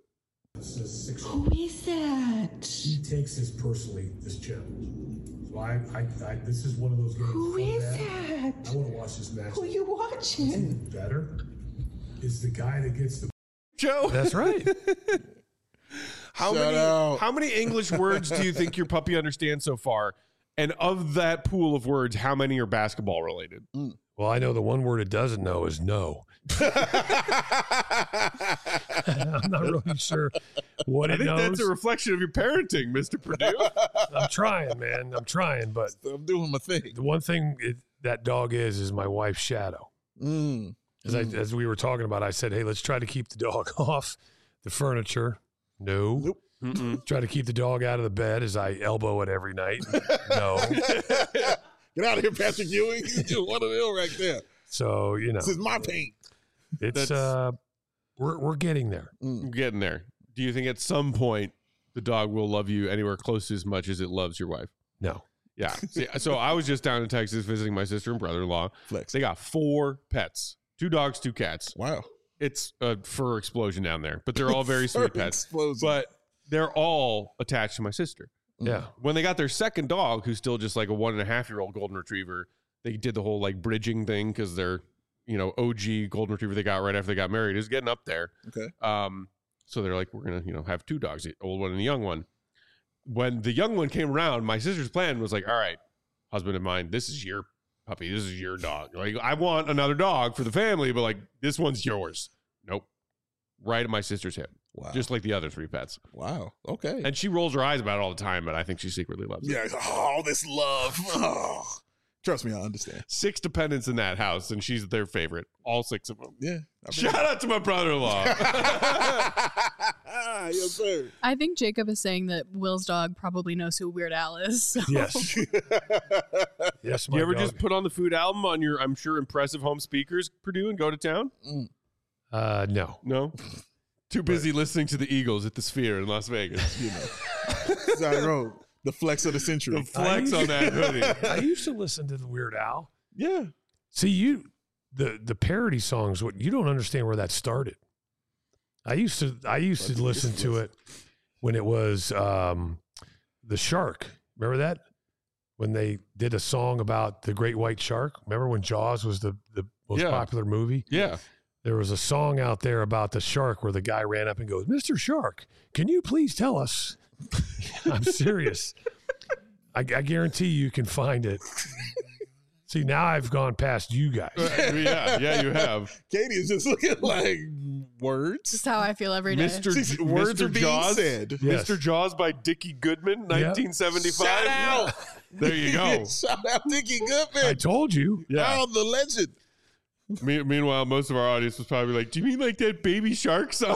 Who is that? He takes this personally, this challenge. So I, I, I this is one of those games. Who so is bad. that? I want to watch this match. Who you watching? Better is the guy that gets the. Joe, That's right. how Shout many out. how many English words do you think your puppy understands so far? And of that pool of words, how many are basketball related? Well, I know the one word it doesn't know is no. I'm not really sure what I it think knows. that's a reflection of your parenting, Mister Purdue. I'm trying, man. I'm trying, but I'm doing my thing. the one thing it, that dog is is my wife's shadow. Mm. As I as we were talking about, I said, "Hey, let's try to keep the dog off the furniture." No. Nope. Mm-mm. Try to keep the dog out of the bed as I elbow it every night. No. Get out of here, Patrick Ewing. You're one of them right there. So you know, This is my paint. it's That's- uh, we're we're getting there. I'm getting there. Do you think at some point the dog will love you anywhere close to as much as it loves your wife? No. Yeah. See, so I was just down in Texas visiting my sister and brother-in-law. Flex. They got four pets, two dogs, two cats. Wow. It's a fur explosion down there, but they're all very sweet pets. Explosion. But they're all attached to my sister. Yeah. When they got their second dog, who's still just like a one and a half year old golden retriever, they did the whole like bridging thing because they're, you know, O G golden retriever they got right after they got married is getting up there. Okay. Um, so they're like, we're gonna, you know, have two dogs, the old one and the young one. When the young one came around, my sister's plan was like, all right, husband of mine, this is your puppy, this is your dog. Like, I want another dog for the family, but like this one's yours. Nope. Right at my sister's hip. Wow. Just like the other three pets. wow. Okay. And she rolls her eyes about it all the time, but I think she secretly loves it. yeah. Oh, this love. Oh. Trust me, I understand. Six dependents in that house, and she's their favorite. All six of them. Yeah. Shout out to my brother-in-law. Yes, sir. I think Jacob is saying that Will's dog probably knows who Weird Al is. So. Yes. Yes, my You ever dog. just put on the Food album on your, I'm sure, impressive home speakers, Purdue, and go to town? Uh, no. No? Too busy listening to the Eagles at the Sphere in Las Vegas. You know. Side road. The flex of the century. The flex on that hoodie. I used to listen to the Weird Al. Yeah. See, you the the parody songs. What you don't understand where that started. I used to I used to listen to it when it was um, the shark. Remember that when they did a song about the great white shark. Remember when Jaws was the the most Yeah. popular movie? Yeah. There was a song out there about the shark where the guy ran up and goes, "Mister Shark, can you please tell us?" I'm serious. I, I guarantee you can find it. See, now I've gone past you guys. Uh, yeah, yeah, you have. Katie is just looking like words. Just how I feel every day. Mister She's- J- words Mister are being Jaws, said. Yes. Mister Jaws by Dickie Goodman, nineteen seventy-five. Shout out. There you go. Shout out Dickie I Goodman. told you. Yeah. Oh, the legend. Me- meanwhile, most of our audience was probably like, "Do you mean like that Baby Shark song?"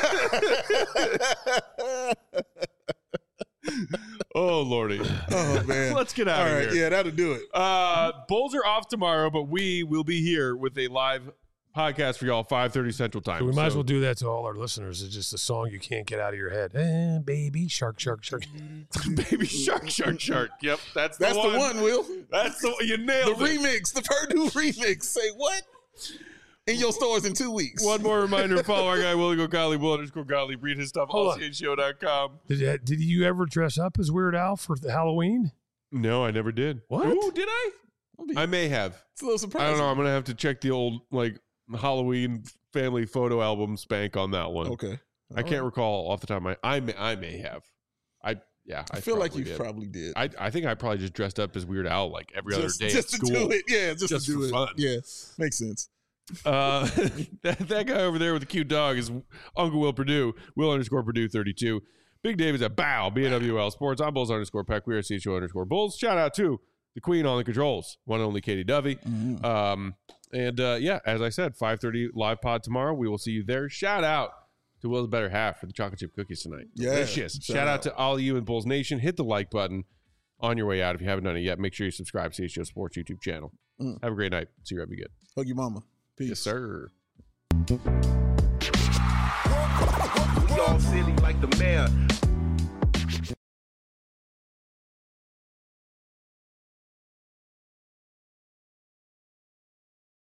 Oh lordy. Oh man. Let's get out All of right, here. yeah, that'll do it. Uh, Bulls are off tomorrow, but we will be here with a live podcast for y'all, five thirty Central Time. So we might as So- well do that to all our listeners. It's just a song you can't get out of your head. Eh, baby shark, shark, shark. Baby Shark, Shark, Shark. Yep, that's the That's one. the one, Will. That's the you The nailed it. remix, the Purdue remix. Say what? In your stores in two weeks. One more reminder: follow our guy Willie Gottlieb, Will underscore Gottlieb. Read his stuff Hold all on. C H O dot com. Did, did you ever dress up as Weird Al for the Halloween? No, I never did. What? Ooh, did I? I may have. It's a little I surprising. don't know. I'm gonna have to check the old like Halloween family photo album spank on that one. Okay. I can't recall off the top of my. I may. I may have. I yeah. I feel like probably you did. probably did. I I think I probably just dressed up as Weird Al like every just, other day just at to school. do it. Yeah, just, Just to do for it. fun. Yeah, makes sense. Uh, that, that guy over there with the cute dog is Uncle Will Purdue. Will underscore Purdue thirty-two. Big Dave is at Bow, B N W L Sports. I'm Bulls underscore Peck. We are C H O underscore Bulls. Shout out to the queen on the controls, one and only Katie Dovey. Mm-hmm. Um, and uh, yeah, as I said, five thirty live pod tomorrow. We will see you there. Shout out to Will's better half for the chocolate chip cookies tonight. Yeah, Delicious. shout Shout, out. out. to all of you in Bulls Nation. Hit the like button on your way out. If you haven't done it yet, make sure you subscribe to C H O Sports YouTube channel. Mm. Have a great night. See you. Be good. Hug your mama. Peace. Yes, sir. We all silly like the mayor.